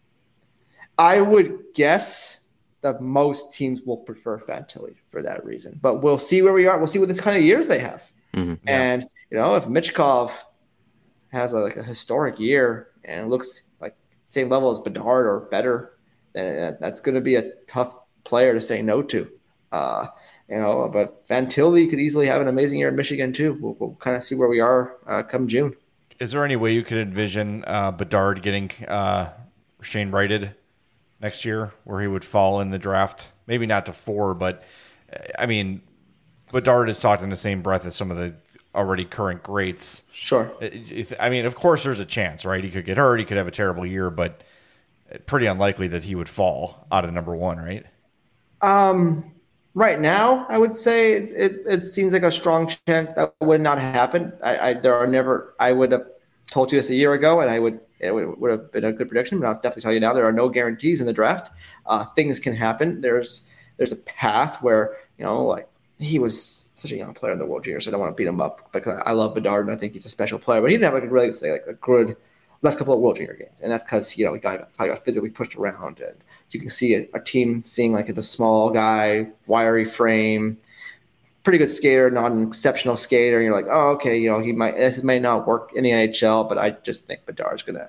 I would guess that most teams will prefer Fantilli for that reason. But we'll see where we are. We'll see what this kind of years they have. Mm-hmm. Yeah. And you know, if Michkov has a, like a historic year and looks like same level as Bedard or better, then that's going to be a tough player to say no to. Uh, you know, but Fantilli could easily have an amazing year in Michigan too. We'll, we'll kind of see where we are uh, come June. Is there any way you could envision uh, Bedard getting uh, Shane Wrighted next year, where he would fall in the draft? Maybe not to four, but I mean, Bedard is talked in the same breath as some of the already current greats. Sure. I mean, of course, there's a chance, right? He could get hurt. He could have a terrible year, but pretty unlikely that he would fall out of number one, right? Um. Right now, I would say it, it, it seems like a strong chance that would not happen. I, I there are never. I would have told you this a year ago, and I would it would, would have been a good prediction. But I'll definitely tell you now, there are no guarantees in the draft. Uh, things can happen. There's there's a path where you know, like he was such a young player in the World Juniors, so I don't want to beat him up because I love Bedard and I think he's a special player. But he didn't have like a really say like a good last couple of World Junior games, and that's because you know he got, got physically pushed around, and you can see a, a team seeing like the small guy, wiry frame, pretty good skater, not an exceptional skater. And you're like, oh, okay, you know he might this may not work in the N H L, but I just think Bedard's gonna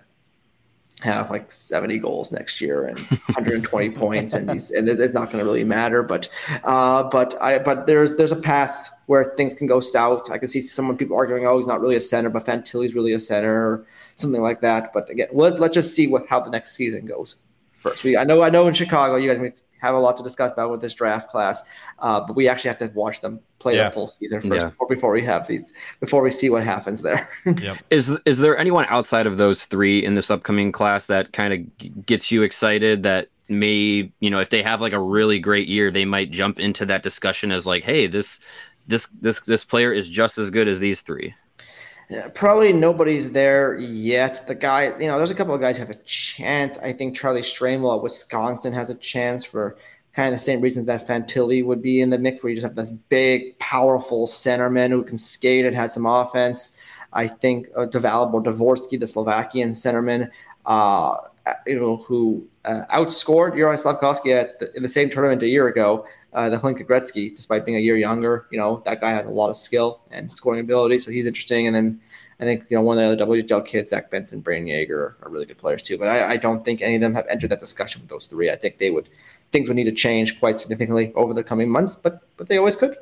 have like seventy goals next year and one hundred twenty points, and he's and it's not going to really matter. But uh, but I but there's there's a path where things can go south. I can see some people arguing, oh, he's not really a center, but Fantilli's really a center, or something like that. But again, let, let's just see what how the next season goes first. We I know I know in Chicago you guys have a lot to discuss about with this draft class, uh, but we actually have to watch them play yeah. the full season first yeah. before, before we have these before we see what happens there. Yep. Is is there anyone outside of those three in this upcoming class that kind of g- gets you excited that may, you know, if they have like a really great year, they might jump into that discussion as like, hey, this this this this player is just as good as these three? Yeah, probably nobody's there yet. The guy, you know, there's a couple of guys who have a chance. I think Charlie Stramel at Wisconsin has a chance for kind of the same reasons that Fantilli would be in the mix, where you just have this big, powerful centerman who can skate and has some offense. I think uh, Dalibor Dvorsky, the Slovakian centerman, uh, you know, who uh, outscored Juraj Slavkovsky at the, in the same tournament a year ago. Uh, the Hlinka Gretzky, despite being a year younger, you know, that guy has a lot of skill and scoring ability, so he's interesting. And then I think, you know, one of the other W H L kids, Zach Benson, Brayden Yager, are really good players too. But I, I don't think any of them have entered that discussion with those three. I think they would things would need to change quite significantly over the coming months, but but they always could.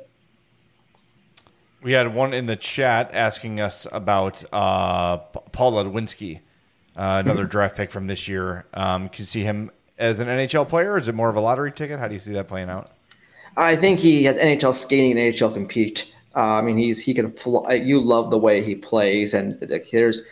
We had one in the chat asking us about uh, Paul Ludwinski, uh, another mm-hmm. draft pick from this year. Um, can you see him as an N H L player, or is it more of a lottery ticket? How do you see that playing out? I think he has N H L skating and N H L compete. Uh, I mean, he's he can fly. You love the way he plays, and here's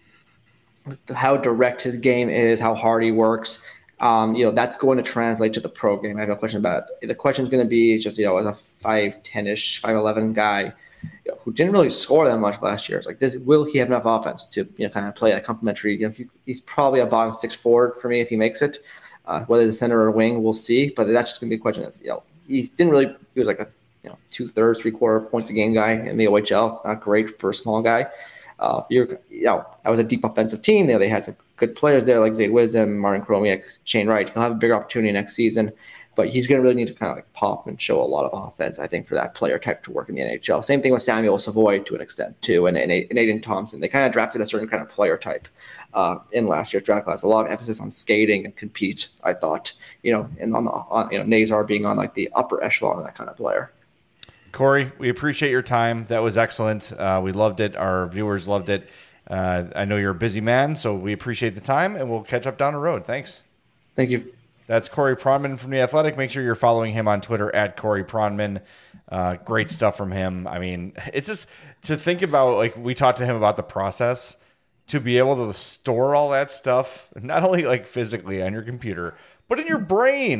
how direct his game is, how hard he works. Um, you know, that's going to translate to the pro game. I have no question about it. The question is going to be just, you know, as a five ten-ish, five eleven guy, you know, who didn't really score that much last year. It's like, this, will he have enough offense to, you know, kind of play a complementary? You know, he's, he's probably a bottom six forward for me if he makes it. Uh, whether the center or wing, we'll see. But that's just going to be a question. That's, you know, he didn't really. He was like a you know two thirds, three quarter points a game guy in the O H L. Not great for a small guy. Uh, you're you know that was a deep offensive team. They they had some good players there like Zayde Wisdom, Martin Chromiak, Shane Wright. He'll have a bigger opportunity next season, but he's going to really need to kind of like pop and show a lot of offense, I think, for that player type to work in the N H L. Same thing with Samuel Savoy to an extent too, and and, and Aiden Thompson. They kind of drafted a certain kind of player type uh, in last year's draft class. A lot of emphasis on skating and compete, I thought, you know, and on the on, you know Nazar being on like the upper echelon of that kind of player. Corey, we appreciate your time. That was excellent. Uh, we loved it. Our viewers loved it. Uh, I know you're a busy man, so we appreciate the time, and we'll catch up down the road. Thanks. Thank you. That's Corey Pronman from The Athletic. Make sure you're following him on Twitter at Corey Pronman. Uh, great stuff from him. I mean, it's just to think about, like, we talked to him about the process, to be able to store all that stuff, not only like physically on your computer, but in your brain,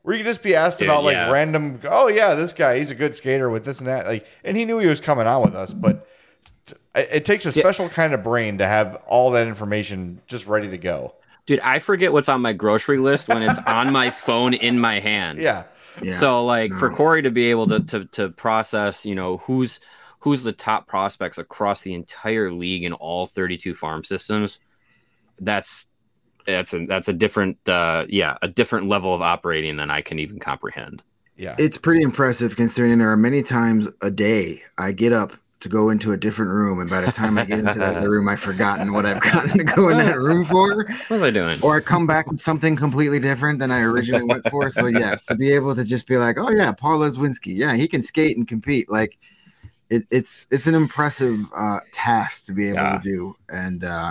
where you could just be asked Dude, about like yeah. random. Oh yeah, this guy, he's a good skater with this and that. Like, and he knew he was coming on with us, but it, it takes a special yeah. kind of brain to have all that information just ready to go. Dude, I forget what's on my grocery list when it's on my phone in my hand. Yeah. Yeah. So like No. for Corey to be able to to to process, you know, who's who's the top prospects across the entire league in all thirty-two farm systems, that's that's a that's a different uh yeah, a different level of operating than I can even comprehend. Yeah. It's pretty impressive considering there are many times a day I get up to go into a different room, and by the time I get into the, the room, I've forgotten what I've gotten to go in that room for. What was I doing? Or I come back with something completely different than I originally went for. So yes, to be able to just be like, oh yeah, Paul Leswinski, yeah, he can skate and compete. Like it, it's it's an impressive uh, task to be able Yeah. to do, and uh,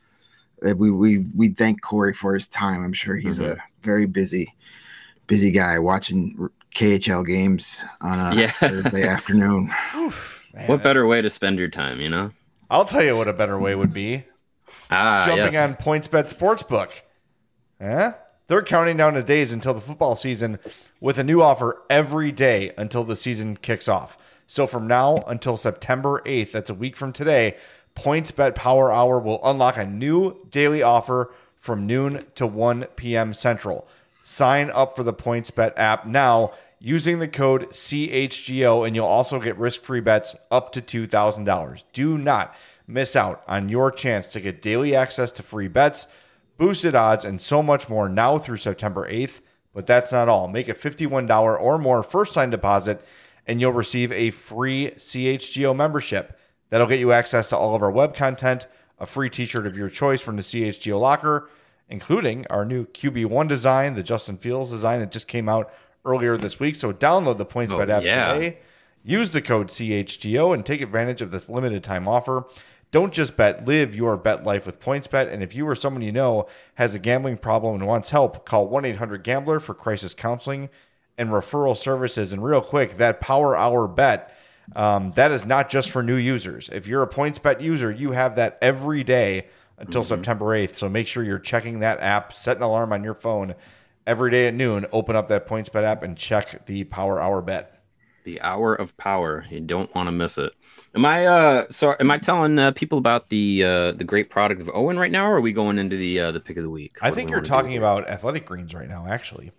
we we we thank Corey for his time. I'm sure he's Mhm. a very busy busy guy watching K H L games on a Yeah. Thursday afternoon. Oof, man, What better that's- way to spend your time, you know? I'll tell you what a better way would be. Ah, Jumping yes. on PointsBet Sportsbook. Huh? They're counting down the days until the football season with a new offer every day until the season kicks off. So from now until September eighth, that's a week from today, PointsBet Power Hour will unlock a new daily offer from noon to one p.m. Central. Sign up for the PointsBet app now using the code C H G O, and you'll also get risk-free bets up to two thousand dollars. Do not miss out on your chance to get daily access to free bets, boosted odds, and so much more now through September eighth. But that's not all. Make a fifty-one dollars or more first-time deposit, and you'll receive a free C H G O membership. That'll get you access to all of our web content, a free t-shirt of your choice from the C H G O locker, including our new Q B one design, the Justin Fields design that just came out earlier this week. So download the PointsBet Oh, app yeah. today. Use the code C H G O and take advantage of this limited time offer. Don't just bet, live your bet life with PointsBet. And if you or someone you know has a gambling problem and wants help, call one eight hundred gambler for crisis counseling and referral services. And real quick, that Power Hour bet, um, that is not just for new users. If you're a PointsBet user, you have that every day until Mm-hmm. September eighth. So make sure you're checking that app, set an alarm on your phone every day at noon, open up that PointsBet app and check the Power Hour bet. The hour of power. You don't want to miss it. Am I uh sorry, am I telling uh, people about the uh the great product of Owen right now, or are we going into the uh the pick of the week? I What do think we you're wanna do talking here? about Athletic Greens right now, actually.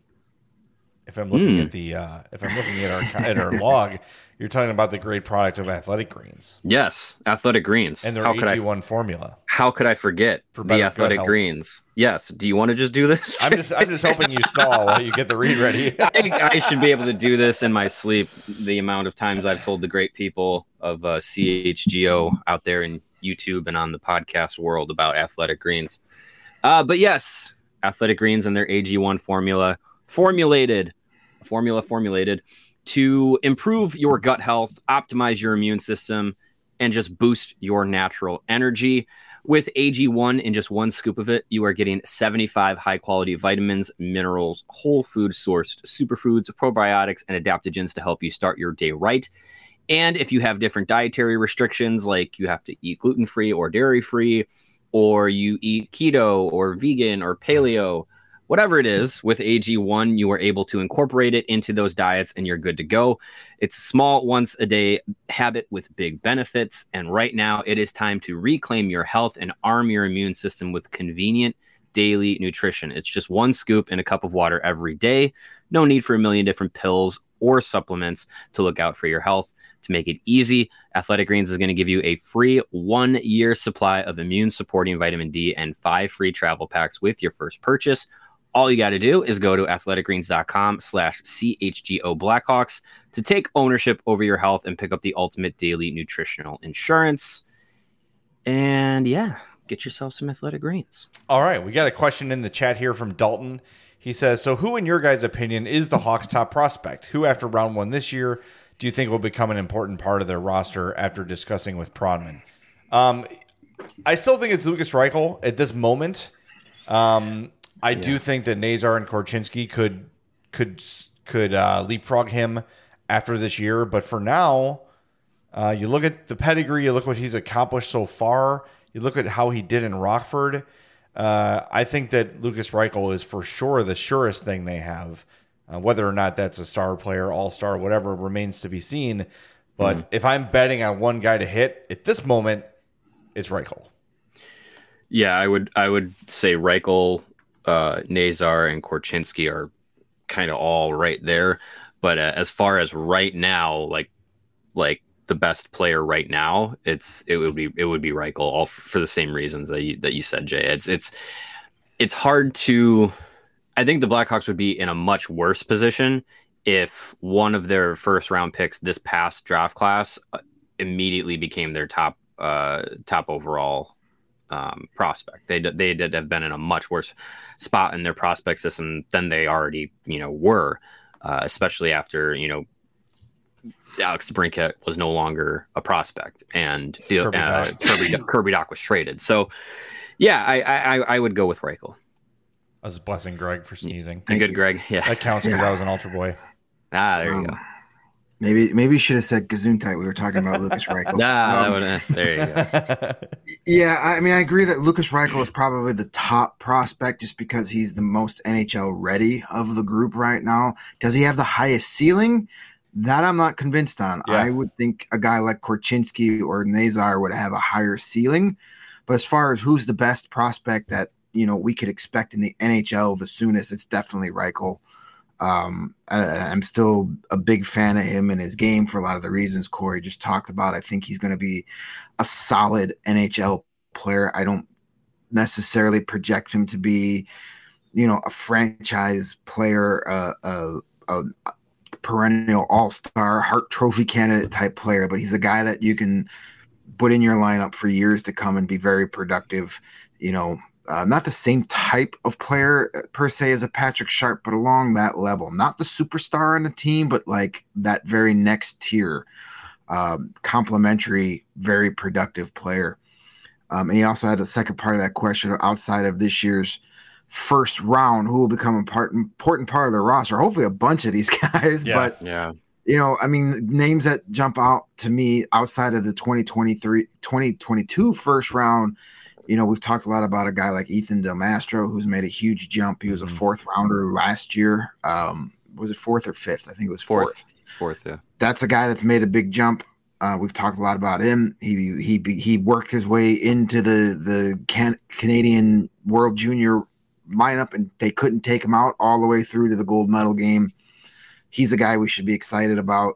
If I'm looking Hmm. at the uh, if I'm looking at our at our log, you're talking about the great product of Athletic Greens Yes, Athletic Greens. and their how could A I G one formula. how could I forget For better the gut Athletic health. Greens? Yes. Do you want to just do this? I'm just I'm just hoping you stall while you get the read ready. I, I should be able to do this in my sleep. The amount of times I've told the great people of uh, C H G O out there in YouTube and on the podcast world about Athletic Greens. Uh, but yes, Athletic Greens and their A G one formula, formulated, formula formulated to improve your gut health, optimize your immune system, and just boost your natural energy. With A G one, in just one scoop of it, you are getting seventy-five high-quality vitamins, minerals, whole food sourced superfoods, probiotics, and adaptogens to help you start your day right. And if you have different dietary restrictions, like you have to eat gluten-free or dairy-free, or you eat keto or vegan or paleo, whatever it is, with A G one, you are able to incorporate it into those diets and you're good to go. It's a small once a day habit with big benefits. And right now it is time to reclaim your health and arm your immune system with convenient daily nutrition. It's just one scoop in a cup of water every day. No need for a million different pills or supplements to look out for your health. To make it easy, Athletic Greens is going to give you a free one year supply of immune supporting vitamin D and five free travel packs with your first purchase. All you got to do is go to athleticgreens.com slash CHGO Blackhawks to take ownership over your health and pick up the ultimate daily nutritional insurance. And yeah, get yourself some Athletic Greens. All right, we got a question in the chat here from Dalton. He says, so who in your guys' opinion is the Hawks' top prospect? Who after round one this year do you think will become an important part of their roster after discussing with Prodman? Um, I still think it's Lucas Reichel at this moment. Um, I Yeah. do think that Nazar and Korchinski could could could uh, leapfrog him after this year, but for now, uh, you look at the pedigree, you look what he's accomplished so far, you look at how he did in Rockford. Uh, I think that Lucas Reichel is for sure the surest thing they have Uh, whether or not that's a star player, all-star, whatever, remains to be seen. But Mm-hmm. if I'm betting on one guy to hit at this moment, it's Reichel. Yeah, I would I would say Reichel, uh, Nazar, and Korchinski are kind of all right there. But uh, as far as right now, like like the best player right now, it's it would be it would be Reichel, all f- for the same reasons that you that you said, Jay. It's it's it's hard to. I think the Blackhawks would be in a much worse position if one of their first round picks this past draft class immediately became their top uh, top overall um, prospect. They they did have been in a much worse spot in their prospect system than they already you know were, uh, especially after you know Alex DeBrincat was no longer a prospect and Kirby uh, Dach. Kirby Kirby Dach was traded. So yeah, I I, I would go with Reichel. I was blessing Greg for sneezing. Good, you. Greg. Yeah. That counts because Yeah. I was an Ultra Boy. Ah, there you Um, go. Maybe maybe you should have said Gesundheit. We were talking about Lucas Reichel. Nah, Um, that would, uh, there you go. Yeah, I mean, I agree that Lucas Reichel is probably the top prospect just because he's the most N H L ready of the group right now. Does he have the highest ceiling? That I'm not convinced on. Yeah. I would think a guy like Korchinski or Nazar would have a higher ceiling. But as far as who's the best prospect that you know we could expect in the N H L the soonest, it's definitely Reichel. Um, I, I'm still a big fan of him and his game for a lot of the reasons Corey just talked about. I think he's going to be a solid N H L player. I don't necessarily project him to be, you know, a franchise player, uh, a, a perennial all-star, Hart Trophy candidate type player, but he's a guy that you can put in your lineup for years to come and be very productive, you know, Uh, not the same type of player per se as a Patrick Sharp, but along that level. Not the superstar on the team, but like that very next tier, um, complementary, very productive player. Um, and he also had a second part of that question outside of this year's first round, who will become a part, important part of the roster. Hopefully a bunch of these guys, Yeah. but Yeah. you know, I mean, names that jump out to me outside of the twenty twenty-three, twenty twenty-two first round. You know, we've talked a lot about a guy like Ethan Del Mastro, who's made a huge jump. He was a fourth rounder last year. Um, was it fourth or fifth? I think it was fourth. Fourth. Fourth, yeah. That's a guy that's made a big jump. Uh, we've talked a lot about him. He he he worked his way into the the can, Canadian World Junior lineup, and they couldn't take him out all the way through to the gold medal game. He's a guy we should be excited about.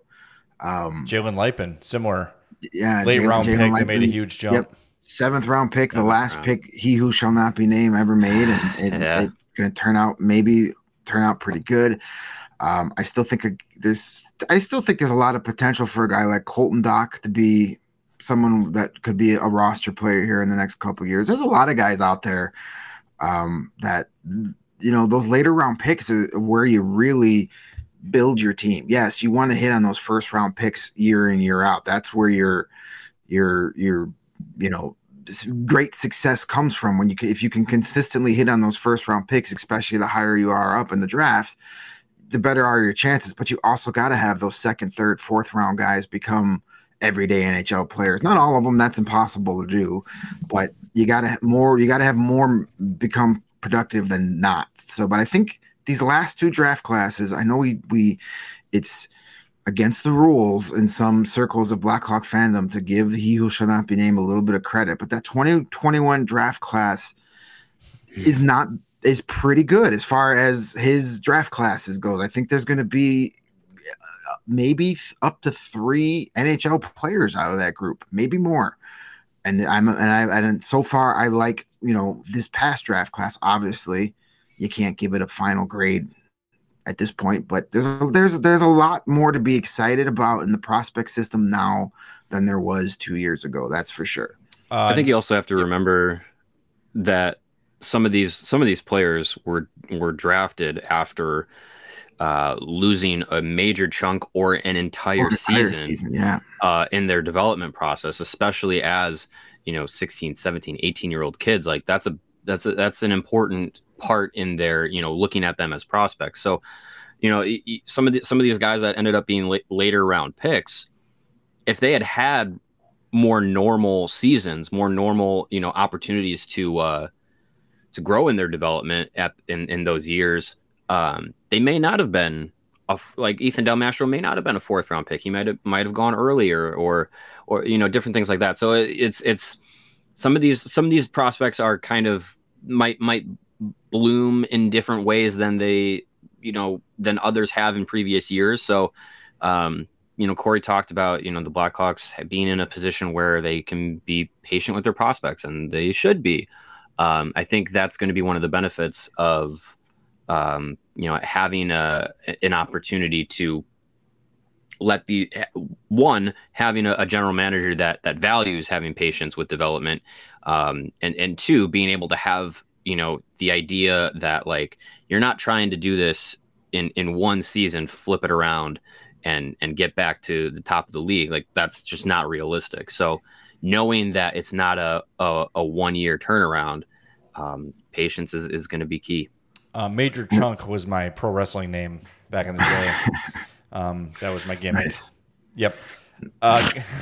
Um, Jalen Lipin, similar. yeah, Late Jalen- round Jalen pick that made a Lipin. huge jump. Yep. Seventh round pick, the Seventh last round. pick, he who shall not be named ever made, and it, Yeah. it's going to turn out maybe turn out pretty good. Um, I still think a, there's I still think there's a lot of potential for a guy like Colton Dock to be someone that could be a roster player here in the next couple of years. There's a lot of guys out there um, that you know those later round picks are where you really build your team. Yes, you want to hit on those first round picks year in year out. That's where your your your you know great success comes from when you can, if you can consistently hit on those first round picks, especially the higher you are up in the draft, the better are your chances. But you also got to have those second, third, fourth round guys become everyday N H L players. Not all of them, that's impossible to do, but you got to have more. You got to have more become productive than not. So, but I think these last two draft classes, I know we we it's against the rules in some circles of Blackhawk fandom to give he who shall not be named a little bit of credit, but that twenty twenty-one draft class is not is pretty good as far as his draft classes goes. I think there's going to be maybe up to three N H L players out of that group, maybe more. And I'm and I and so far I like you know this past draft class. Obviously, you can't give it a final grade at this point, but there's there's there's a lot more to be excited about in the prospect system now than there was two years ago. That's for sure. Uh, I think you also have to remember that some of these some of these players were were drafted after uh, losing a major chunk or an entire Or the entire season, season, yeah. uh, in their development process, especially as you know sixteen, seventeen, eighteen year old kids. Like that's a that's a, that's an important part in their you know looking at them as prospects. So you know y- y- some of the, some of these guys that ended up being la- later round picks, if they had had more normal seasons, more normal you know opportunities to uh to grow in their development at in, in those years, Um, they may not have been a, like Ethan Del Mastro may not have been a fourth round pick. He might have might have gone earlier, or or you know different things like that. So it, it's it's some of these some of these prospects are kind of might might bloom in different ways than they you know than others have in previous years. So um, you know Corey talked about you know the Blackhawks being in a position where they can be patient with their prospects, and they should be. Um, I think that's going to be one of the benefits of um, you know having a an opportunity to let the one having a, a general manager that that values having patience with development, um, and and two being able to have you know the idea that like you're not trying to do this in in one season, flip it around and and get back to the top of the league. Like that's just not realistic. So knowing that it's not a a, a one year turnaround, um, patience is, is going to be key. Uh, Major Chunk was my pro wrestling name back in the day. Um, that was my gimmick. Nice. Yep. Uh,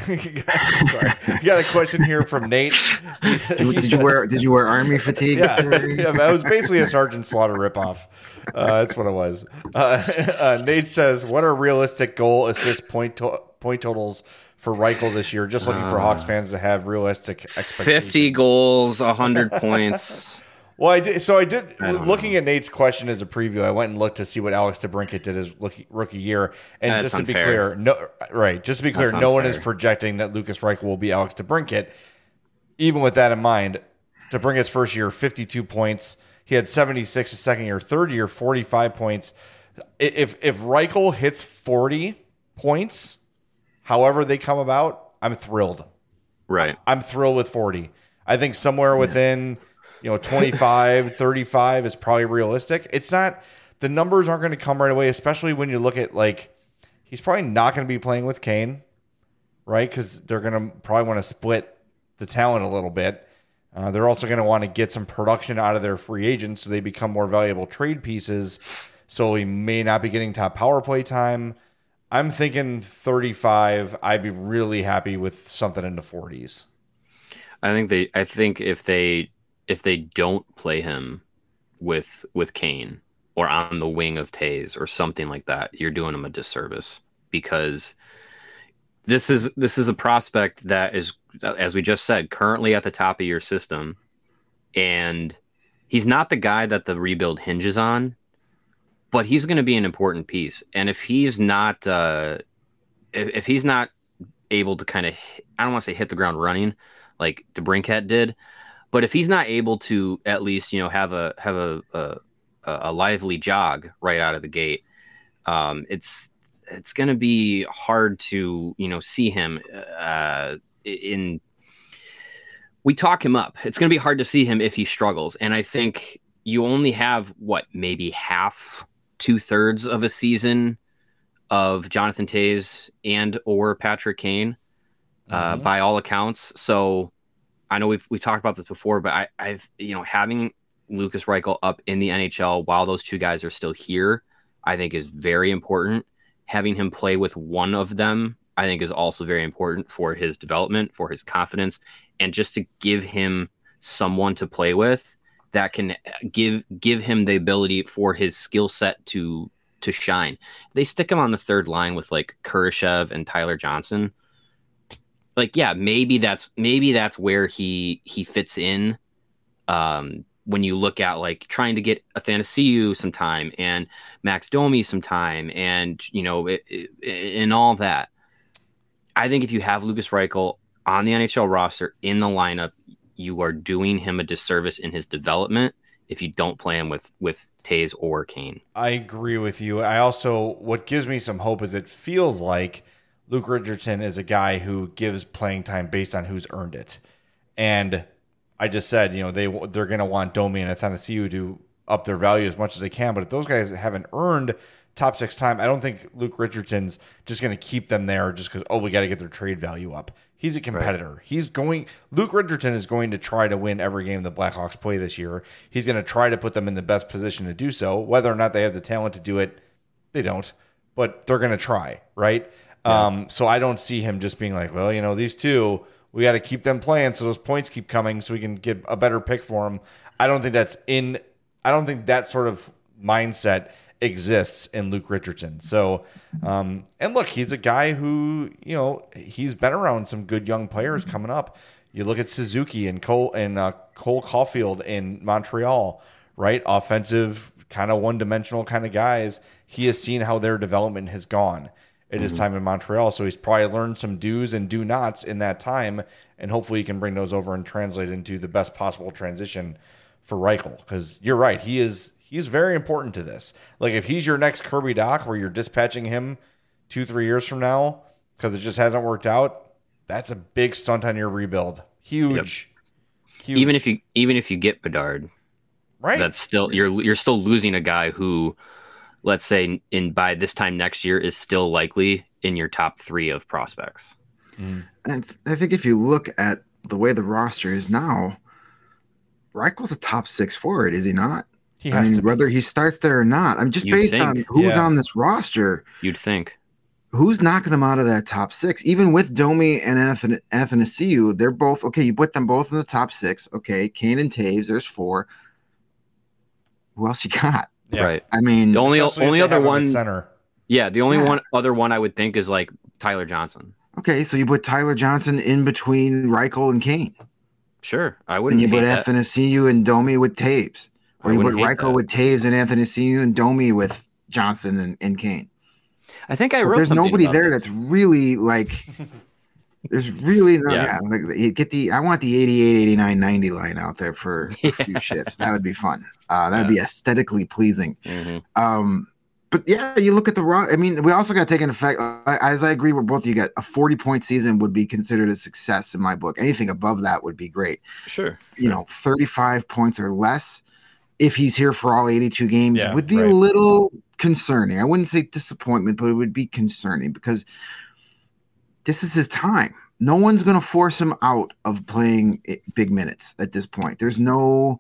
sorry, you got a question here from Nate. Did, did you wear Did you wear army fatigue? Yeah, yeah, it was basically a Sergeant Slaughter ripoff. Uh, that's what it was. Uh, uh, Nate says, "What are realistic goal assist point to- point totals for Reichel this year? Just looking uh, for Hawks fans to have realistic expectations." Fifty goals, a hundred points. Well, I did. So I did. I looking know. at Nate's question as a preview, I went and looked to see what Alex DeBrincat did his rookie, rookie year. And That's just to unfair. be clear, no, right? Just to be clear, That's no one unfair. is projecting that Lucas Reichel will be Alex DeBrincat. Even with that in mind, DeBrincat's first year, fifty-two points. He had seventy-six his second year. Third year, forty-five points. If if Reichel hits forty points, however they come about, I'm thrilled. Right. I'm thrilled with forty. I think somewhere within. You know, twenty-five, thirty-five is probably realistic. It's not, the numbers aren't going to come right away, especially when you look at, like, he's probably not going to be playing with Kane, right? Because they're going to probably want to split the talent a little bit. Uh, they're also going to want to get some production out of their free agents so they become more valuable trade pieces. So he may not be getting top power play time. I'm thinking thirty-five. I'd be really happy with something in the forties. I think they, I think if they, if they don't play him with with Kane or on the wing of Tays or something like that, you're doing him a disservice, because this is this is a prospect that is, as we just said, currently at the top of your system, and he's not the guy that the rebuild hinges on, but he's going to be an important piece. And if he's not uh, if, if he's not able to kind of, I don't want to say hit the ground running like DeBrincat did, but if he's not able to at least, you know, have a have a a, a lively jog right out of the gate, um, it's it's going to be hard to, you know, see him uh, in. We talk him up. It's going to be hard to see him if he struggles, and I think you only have what maybe half, two thirds of a season of Jonathan Tays and or Patrick Kane, uh, mm-hmm. by all accounts. So. I know we've we've talked about this before, but I, I've you know having Lucas Reichel up in the N H L while those two guys are still here, I think is very important. Having him play with one of them, I think, is also very important for his development, for his confidence, and just to give him someone to play with that can give give him the ability for his skill set to to shine. They stick him on the third line with like Kurashev and Tyler Johnson. Like, yeah, maybe that's maybe that's where he he fits in. Um, when you look at like trying to get Athanasiou some time and Max Domi some time, and you know, it, it, and all that. I think if you have Lucas Reichel on the N H L roster in the lineup, you are doing him a disservice in his development if you don't play him with with Tays or Kane. I agree with you. I also, what gives me some hope is it feels like Luke Richardson is a guy who gives playing time based on who's earned it. And I just said, you know, they, they're going to want Domi and Athanasiou to up their value as much as they can. But if those guys haven't earned top six time, I don't think Luke Richardson's just going to keep them there just because, oh, we got to get their trade value up. He's a competitor. Right. He's going, Luke Richardson is going to try to win every game the Blackhawks play this year. He's going to try to put them in the best position to do so. Whether or not they have the talent to do it, they don't. But they're going to try, right? Yeah. Um, so I don't see him just being like, well, you know, these two, we got to keep them playing so those points keep coming so we can get a better pick for them. I don't think that's in, I don't think that sort of mindset exists in Luke Richardson. So, um, and look, he's a guy who, you know, he's been around some good young players coming up. You look at Suzuki and Cole and uh, Cole Caulfield in Montreal, right? Offensive, kind of one-dimensional kind of guys. He has seen how their development has gone in mm-hmm. his time in Montreal. So he's probably learned some do's and do nots in that time, and hopefully he can bring those over and translate into the best possible transition for Reichel. Because you're right, he is he's very important to this. Like if he's your next Kirby Dach, where you're dispatching him two, three years from now because it just hasn't worked out, that's a big stunt on your rebuild. Huge. Yep. Huge. Even if you even if you get Bedard, right? That's still you're you're still losing a guy who, let's say, in by this time next year is still likely in your top three of prospects. Mm. And I think if you look at the way the roster is now, Reichel's a top six forward, is he not? He has I mean, to be. Whether he starts there or not. I'm just You'd based think. on who's yeah. on this roster. You'd think. Who's knocking them out of that top six? Even with Domi and Athanasiou, they're both okay. You put them both in the top six. Okay, Kane and Taves, there's four. Who else you got? Yeah. Right. I mean, the only only other one center. Yeah, the only yeah. one other one I would think is like Tyler Johnson. Okay, so you put Tyler Johnson in between Reichel and Kane. Sure, I wouldn't. And you put hate Athanasiou and Domi with Taves, or I you put Reichel that. with Taves and Athanasiou and Domi with Johnson and, and Kane. I think I wrote. But there's nobody there this. that's really like. There's really no. Yeah, yeah like, get the. I want the eighty-eight, eighty-nine, ninety line out there for, for yeah. a few shifts. That would be fun. Uh, that'd yeah. be aesthetically pleasing. Mm-hmm. Um, but yeah, you look at the raw. I mean, we also got to take into effect. As I agree with both of you, got a forty point season would be considered a success in my book. Anything above that would be great. Sure. You know, thirty-five points or less, if he's here for all eighty-two games, yeah, would be right. a little concerning. I wouldn't say disappointment, but it would be concerning because this is his time. No one's going to force him out of playing big minutes at this point. There's no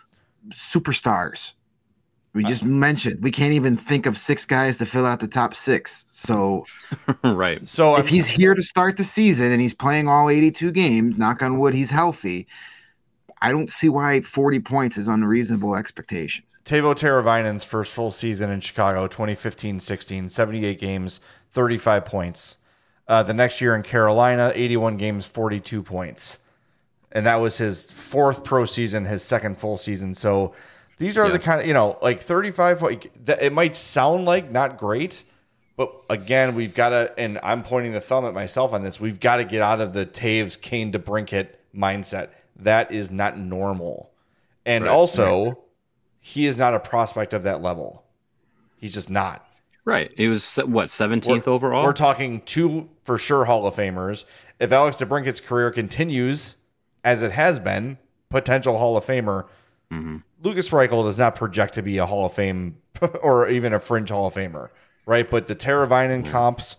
superstars. We just uh, mentioned we can't even think of six guys to fill out the top six. So, right. So if I'm, he's here to start the season and he's playing all eighty-two games, knock on wood, he's healthy. I don't see why forty points is unreasonable expectation. Teuvo Teravainen's first full season in Chicago, twenty fifteen sixteen, seventy-eight games, thirty-five points. Uh, the next year in Carolina, eighty-one games, forty-two points. And that was his fourth pro season, his second full season. So these are yeah. the kind of, you know, like thirty-five, like, it might sound like not great, but again, we've got to, and I'm pointing the thumb at myself on this, we've got to get out of the Taves, Kane, DeBrincat mindset. That is not normal. And right. also, right. he is not a prospect of that level. He's just not. Right. He was, what, seventeenth we're, overall? We're talking two for sure Hall of Famers. If Alex DeBrincat's career continues as it has been, potential Hall of Famer, mm-hmm. Lukas Reichel does not project to be a Hall of Fame or even a fringe Hall of Famer, right? But the Teravainen mm-hmm. comps,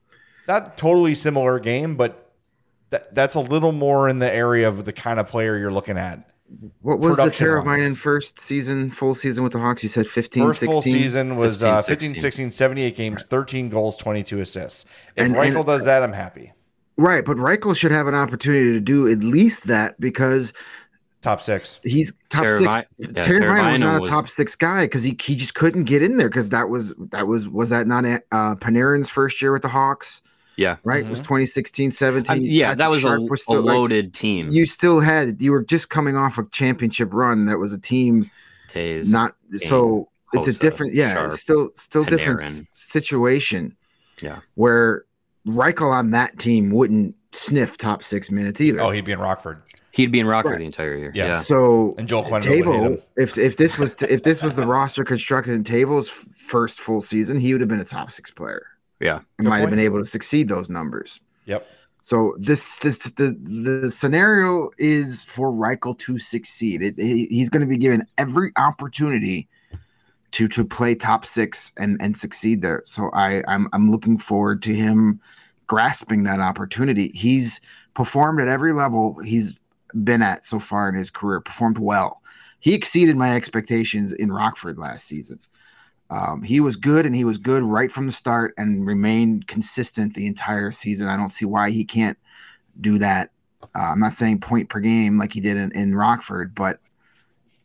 not totally similar game, but that, that's a little more in the area of the kind of player you're looking at. What was the Teravainen first season, full season with the Hawks? You said fifteen, First sixteen? Full season was fifteen, uh, fifteen, sixteen, seventy-eight games, thirteen goals, twenty-two assists. If and, Reichel and, does that, I'm happy. Right, but Reichel should have an opportunity to do at least that because top six. He's top Teravainen, six. yeah, Teravainen was not a was, top six guy because he he just couldn't get in there because that was that was was that not uh, Panarin's first year with the Hawks? Yeah. Right? Mm-hmm. It was twenty sixteen, seventeen. Um, yeah, Patrick that was Sharp a, was still, a loaded like, team. You still had, you were just coming off a championship run that was a team. Taves, not so Hossa, it's a different, yeah, Sharp, it's still, still Panarin. different s- situation. Yeah. Where Reichel on that team wouldn't sniff top six minutes either. Oh, he'd be in Rockford. He'd be in Rockford right. the entire year. Yeah. yeah. So and Joel Quenneville Teuvo, if if this was if this was the roster constructed in Teuvo's first full season, he would have been a top six player. Yeah. And Good might have point. been able to succeed those numbers. Yep. So this this the the scenario is for Reichel to succeed. It, he, he's going to be given every opportunity to to play top six and and succeed there. So I I'm I'm looking forward to him grasping that opportunity. He's performed at every level he's been at so far in his career. Performed well. He exceeded my expectations in Rockford last season. Um, he was good, and he was good right from the start and remained consistent the entire season. I don't see why he can't do that. Uh, I'm not saying point per game like he did in, in Rockford, but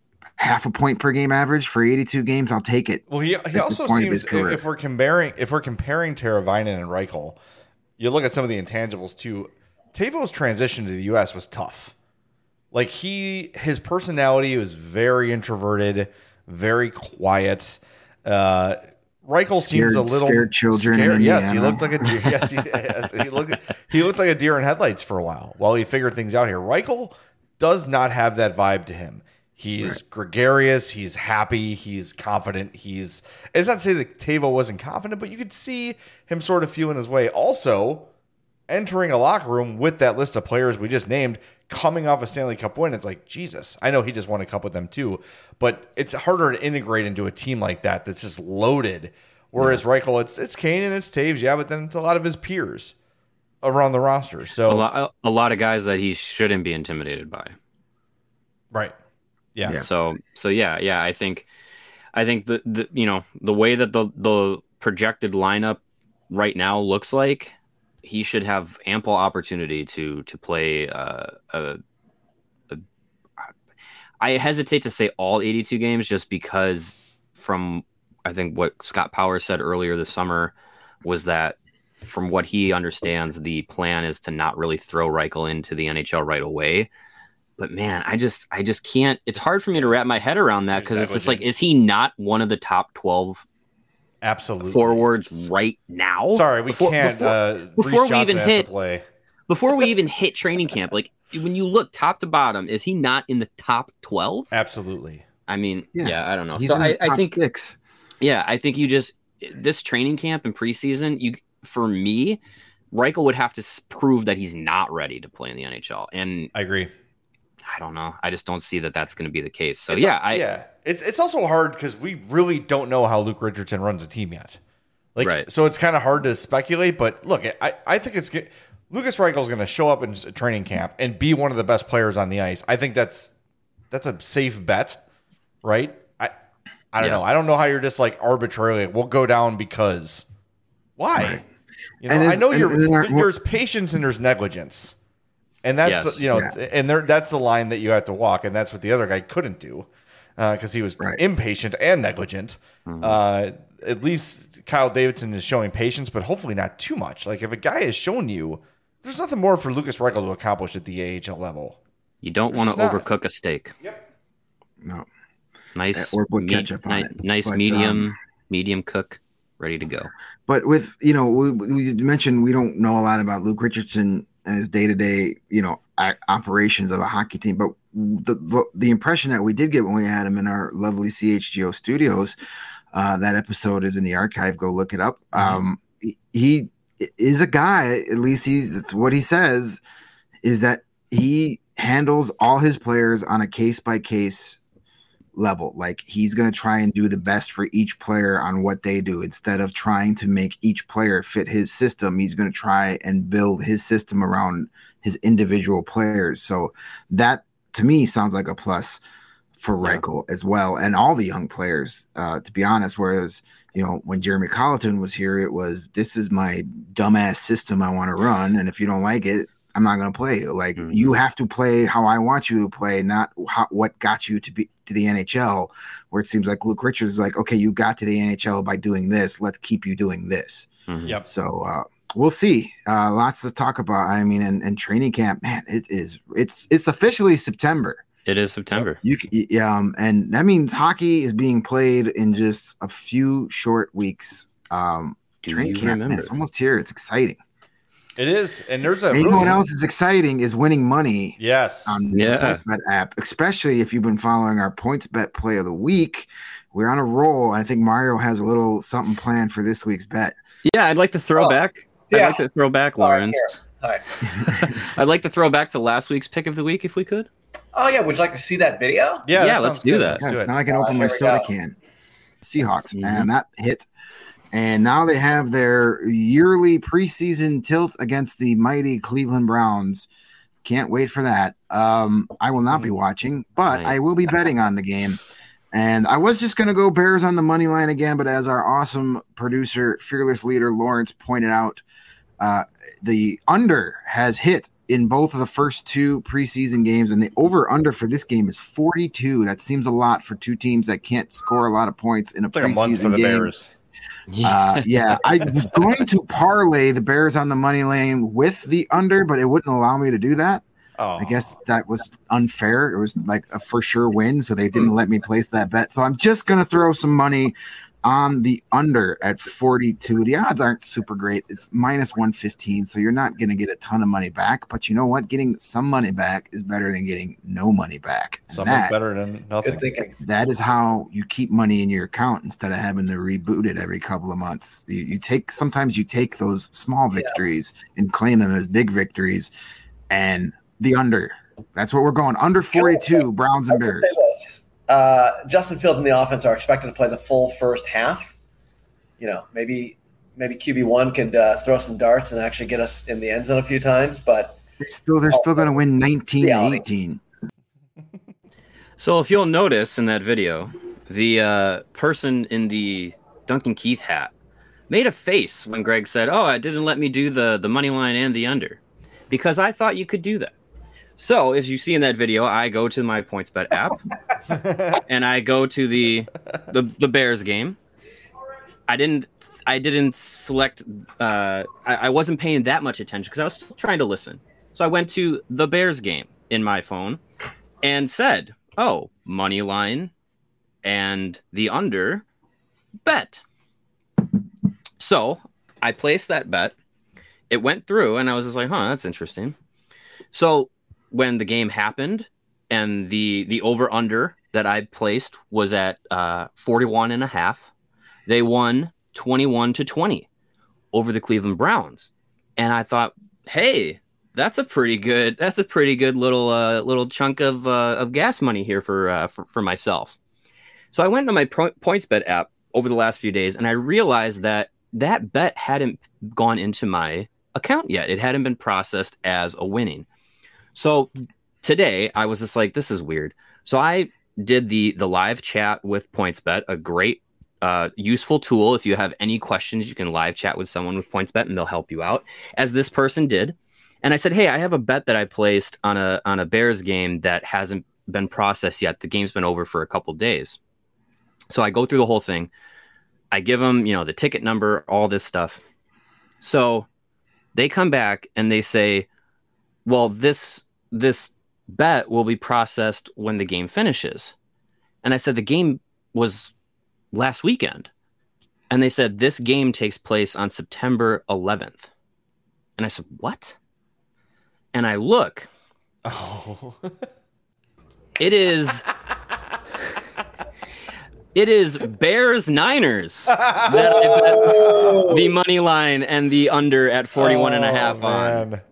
half a point per game average for eighty-two games, I'll take it. Well, he he also seems, if we're comparing if we're comparing Teravainen and Reichel, you look at some of the intangibles too. Teuvo's transition to the U S was tough. Like he, his personality was very introverted, very quiet. Uh, Reichel scared, seems a little scared children. Scared. Yes, he looked like a deer. Yes, he, yes, he looked. He looked like a deer in headlights for a while while he figured things out here. Reichel does not have that vibe to him. He's right. gregarious. He's happy. He's confident. He's. It's not to say that Teuvo wasn't confident, but you could see him sort of feeling his way. Also, entering a locker room with that list of players we just named, coming off a Stanley Cup win, it's like, Jesus. I know he just won a cup with them too, but it's harder to integrate into a team like that that's just loaded. Whereas yeah. Reichel, it's it's Kane and it's Taves, yeah, but then it's a lot of his peers around the roster. So a lot, a lot of guys that he shouldn't be intimidated by. Right. Yeah. yeah. So so yeah, yeah. I think I think the, the you know the way that the the projected lineup right now looks like, he should have ample opportunity to to play. Uh, a, a, I hesitate to say all eighty-two games just because from I think what Scott Powers said earlier this summer was that from what he understands, the plan is to not really throw Reichel into the N H L right away. But man, I just I just can't. It's hard for me to wrap my head around that because it's just like, is he not one of the top twelve? Absolutely. Forwards right now? Sorry, we before, Before, can't. Uh, before we even hit play. Before we even hit training camp, like when you look top to bottom, is he not in the top twelve? Absolutely. I mean, yeah, yeah I don't know. He's so in I, the top I think six. Yeah, I think you just this training camp and preseason. You for me, Reichel would have to prove that he's not ready to play in the N H L, and I agree. I don't know. I just don't see that that's going to be the case. So it's yeah, a, I yeah. It's it's also hard because we really don't know how Luke Richardson runs a team yet. Like, right. So it's kind of hard to speculate. But look, I I think it's good. Lucas Reichel is going to show up in training camp and be one of the best players on the ice. I think that's that's a safe bet, right? I I don't yeah. know. I don't know how you're just like arbitrarily we'll go down because why? Right. You know, I know you're and our, there's patience and there's negligence. And that's, yes. you know, yeah. and there, that's the line that you have to walk. And that's what the other guy couldn't do because uh, he was right. impatient and negligent. Mm-hmm. Uh, at least Kyle Davidson is showing patience, but hopefully not too much. Like if a guy has shown you, there's nothing more for Lucas Reichel to accomplish at the A H L level. You don't want to overcook a steak. Yep. No. Nice. Or put ketchup on ni- it. Nice but, medium, um, medium cook, ready to go. But with, you know, we, we mentioned we don't know a lot about Luke Richardson and his day-to-day, you know, operations of a hockey team. But the, the the impression that we did get when we had him in our lovely C H G O studios, uh, that episode is in the archive. Go look it up. Mm-hmm. Um, he, he is a guy, at least he's that's what he says, is that he handles all his players on a case-by-case level. Like he's going to try and do the best for each player on what they do. Instead of trying to make each player fit his system, he's going to try and build his system around his individual players. So that to me sounds like a plus for Reichel yeah. as well. And all the young players, uh, to be honest, whereas, you know, when Jeremy Colleton was here, it was, this is my dumbass system I want to run. And if you don't like it, I'm not going to play. Like mm-hmm. you have to play how I want you to play, not how, what got you to be to the N H L, where it seems like Luke Richards is like, okay, you got to the N H L by doing this. Let's keep you doing this. Mm-hmm. Yep. So uh, we'll see. Uh, lots to talk about. I mean, and, and training camp, man, it is, it's, it's officially September. It is September. You yeah, um, and that means hockey is being played in just a few short weeks. Um, Do training you camp, remember? man, it's almost here. It's exciting. It is, and there's a. And really... you know what else is exciting is winning money. Yes. On yeah. the PointsBet app, especially if you've been following our PointsBet play of the week. We're on a roll. I think Mario has a little something planned for this week's bet. Yeah, I'd like to throw oh, back. Yeah. I'd like to throw back, Lawrence. Hi. I'd like to throw back to last week's pick of the week if we could. Oh yeah, would you like to see that video? Yeah, yeah that let's do good. that. Let's yes, do now I can uh, open my soda go. can. Seahawks, Mm-hmm. and that hit. And now they have their yearly preseason tilt against the mighty Cleveland Browns. Can't wait for that. Um, I will not be watching, but Nice. I will be betting on the game. And I was just going to go Bears on the money line again, but as our awesome producer, fearless leader Lawrence pointed out, uh, the under has hit in both of the first two preseason games, and the over-under for this game is forty-two. That seems a lot for two teams that can't score a lot of points in a It's like preseason a month for the game. Bears. Uh, yeah, I was going to parlay the Bears on the money lane with the under, but it wouldn't allow me to do that. Oh. I guess that was unfair. It was like a for sure win, so they didn't let me place that bet. So I'm just going to throw some money on the under at forty-two. The odds aren't super great. It's minus one fifteen, so you're not going to get a ton of money back. But you know what? Getting some money back is better than getting no money back. And Something's that, better than nothing. Good thinking. that is how you keep money in your account instead of having to reboot it every couple of months. You, you take sometimes you take those small victories and claim them as big victories, and the under. That's what we're going. Under forty-two, Browns and Bears. Uh, Justin Fields and the offense are expected to play the full first half. You know, maybe maybe Q B one could uh, throw some darts and actually get us in the end zone a few times, but They're still they're still going to win nineteen to Reality. eighteen. So if you'll notice in that video, the uh, person in the Duncan Keith hat made a face when Greg said, "Oh, it didn't let me do the the money line and the under," because I thought you could do that. So if you see in that video, I go to my PointsBet app and I go to the, the the Bears game. I didn't I didn't select. Uh, I, I wasn't paying that much attention because I was still trying to listen. So I went to the Bears game in my phone and said, "Oh, money line and the under bet." So I placed that bet. It went through, and I was just like, "Huh, that's interesting." So when the game happened and the the over under that I placed was at uh, forty-one and a half, they won twenty-one to twenty over the Cleveland Browns. And I thought, hey, that's a pretty good that's a pretty good little uh, little chunk of uh, of gas money here for, uh, for for myself. So I went to my Pro- PointsBet app over the last few days, and I realized that that bet hadn't gone into my account yet. It hadn't been processed as a winning. So today I was just like, this is weird. So I did the the live chat with PointsBet, a great uh, useful tool. If you have any questions, you can live chat with someone with PointsBet and they'll help you out, as this person did. And I said, hey, I have a bet that I placed on a on a Bears game that hasn't been processed yet. The game's been over for a couple days. So I go through the whole thing. I give them, you know, the ticket number, all this stuff. So they come back and they say, well, this this bet will be processed when the game finishes. And I said, the game was last weekend. And they said, this game takes place on September eleventh. And I said, what? And I look. Oh. It is... It is Bears Niners that I bet the money line and the under at forty-one and a half oh, on. man.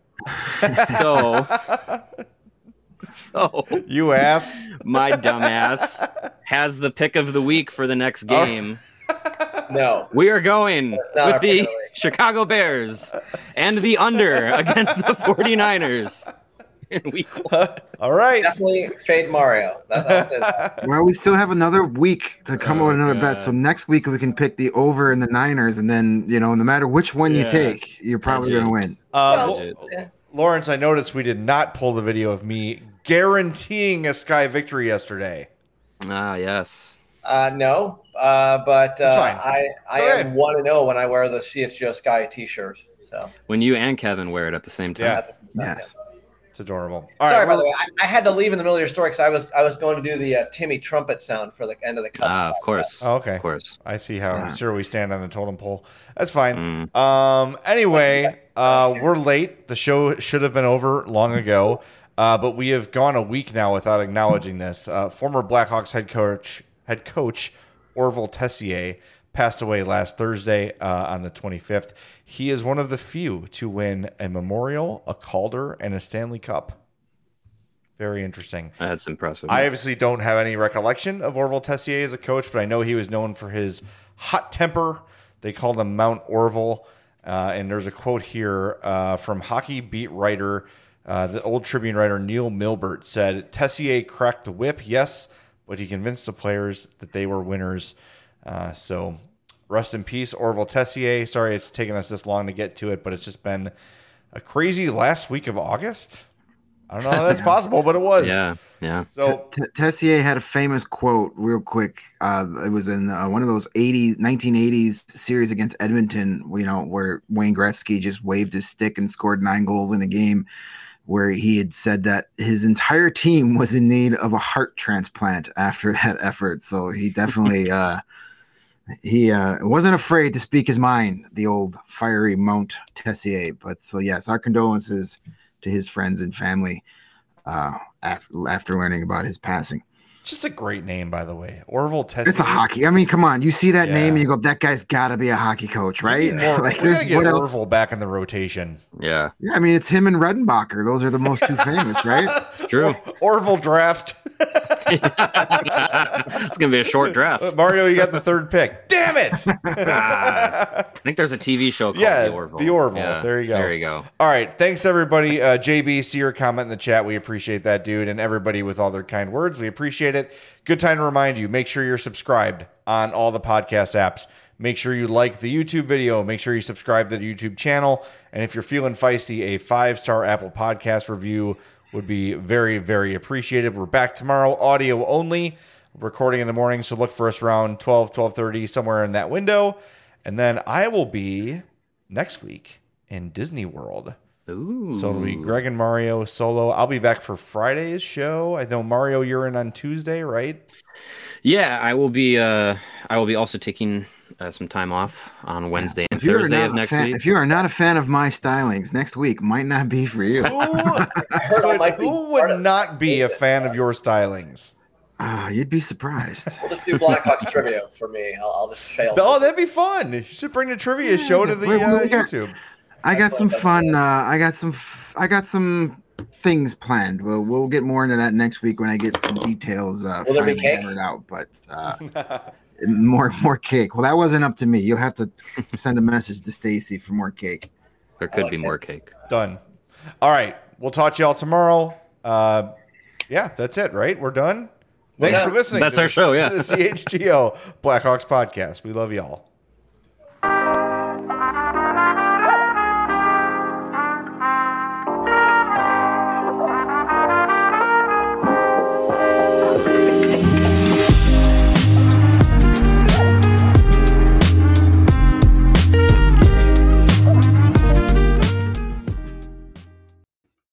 So, so You ass. my dumbass has the pick of the week for the next game. no. We are going Not with our the pick of the week. Chicago Bears and the under against the forty-niners in week one. All right. Definitely fade Mario. That's I'll say that. Well, we still have another week to come Oh, up with another bet. God. So next week we can pick the over and the Niners, and then you know, no matter which one you Yeah. take, you're probably Legit. going to win. Uh, Well, Lo- yeah. Lawrence, I noticed we did not pull the video of me guaranteeing a Sky victory yesterday. Ah, yes. Uh, no, uh, but That's uh, fine. I I It's okay. am one and zero when I wear the C S G O Sky T-shirt. So When you and Kevin wear it at the same time. Yeah. at the same time, Yes. It's adorable. All Sorry, right, by the we're- way, I, I had to leave in the middle of your story because I was I was going to do the uh, Timmy trumpet sound for the end of the cut. Ah, of course. Oh, okay. Of course. I see how Yeah. sure we stand on the totem pole. That's fine. Mm. Um. Anyway, uh, we're late. The show should have been over long ago, uh, but we have gone a week now without acknowledging this. Uh, former Blackhawks head coach head coach Orville Tessier passed away last Thursday uh, on the twenty-fifth. He is one of the few to win a Memorial, a Calder, and a Stanley Cup. Very interesting. That's impressive. I obviously don't have any recollection of Orville Tessier as a coach, but I know he was known for his hot temper. They called him Mount Orville. Uh, and there's a quote here uh, from hockey beat writer, uh, the old Tribune writer Neil Milbert said, Tessier cracked the whip, yes, but he convinced the players that they were winners. Uh, so rest in peace, Orville Tessier. Sorry it's taken us this long to get to it, but it's just been a crazy last week of August. I don't know how that's possible, but it was. Yeah, yeah. So T- T- Tessier had a famous quote, real quick. Uh, it was in uh, one of those eighties, nineteen eighties series against Edmonton, you know, where Wayne Gretzky just waved his stick and scored nine goals in a game, where he had said that his entire team was in need of a heart transplant after that effort. So he definitely uh, he uh, wasn't afraid to speak his mind, the old fiery Mount Tessier. But so, yes, our condolences to his friends and family uh, after after learning about his passing. just a great name, by the way. Orville Tessier. It's a hockey. I mean, come on. You see that Yeah. name and you go, that guy's got to be a hockey coach, right? More, like, we there's gotta get what else? Orville back in the rotation. Yeah, Yeah, I mean, it's him and Redenbacher. Those are the most two famous, right? true. Orville draft. It's gonna be a short draft. Mario, you got the third pick. Damn it! I think there's a T V show called Yeah, The Orville. The Orville. Yeah, There you go. There you go. All right. Thanks, everybody. Uh, J B, see your comment in the chat. We appreciate that, dude. And everybody with all their kind words. We appreciate it. Good time to remind you, make sure you're subscribed on all the podcast apps. Make sure you like the YouTube video. Make sure you subscribe to the YouTube channel. And if you're feeling feisty, a five-star Apple Podcast review would be very, very appreciated. We're back tomorrow, audio only, recording in the morning. So look for us around twelve, twelve thirty, somewhere in that window. And then I will be next week in Disney World. Ooh. So it'll be Greg and Mario solo. I'll be back for Friday's show. I know, Mario, you're in on Tuesday, right? Yeah, I will be. Uh, I will be also taking uh, some time off on Wednesday and If you are Thursday not of a next fan- week. If you are not a fan of my stylings, next week might not be for you. Who, would, who would not be a fan of your stylings? Ah, you'd be surprised. We'll just do Blackhawks trivia for me. I'll, I'll just fail. Oh, that'd be fun. You should bring the trivia show to the Wait, uh, we got- YouTube. I got some fun. Uh, I got some. F- I got some things planned. We'll we'll get more into that next week when I get some details. Uh, Will there be finally cake? hammered out, but uh, more more cake. Well, that wasn't up to me. You'll have to send a message to Stacy for more cake. There could like be that. more cake. Done. All right. We'll talk to y'all tomorrow. Uh, yeah, that's it, right? We're done. Thanks Yeah. for listening. That's to our the- show, to yeah. the C H G O Blackhawks podcast. We love y'all.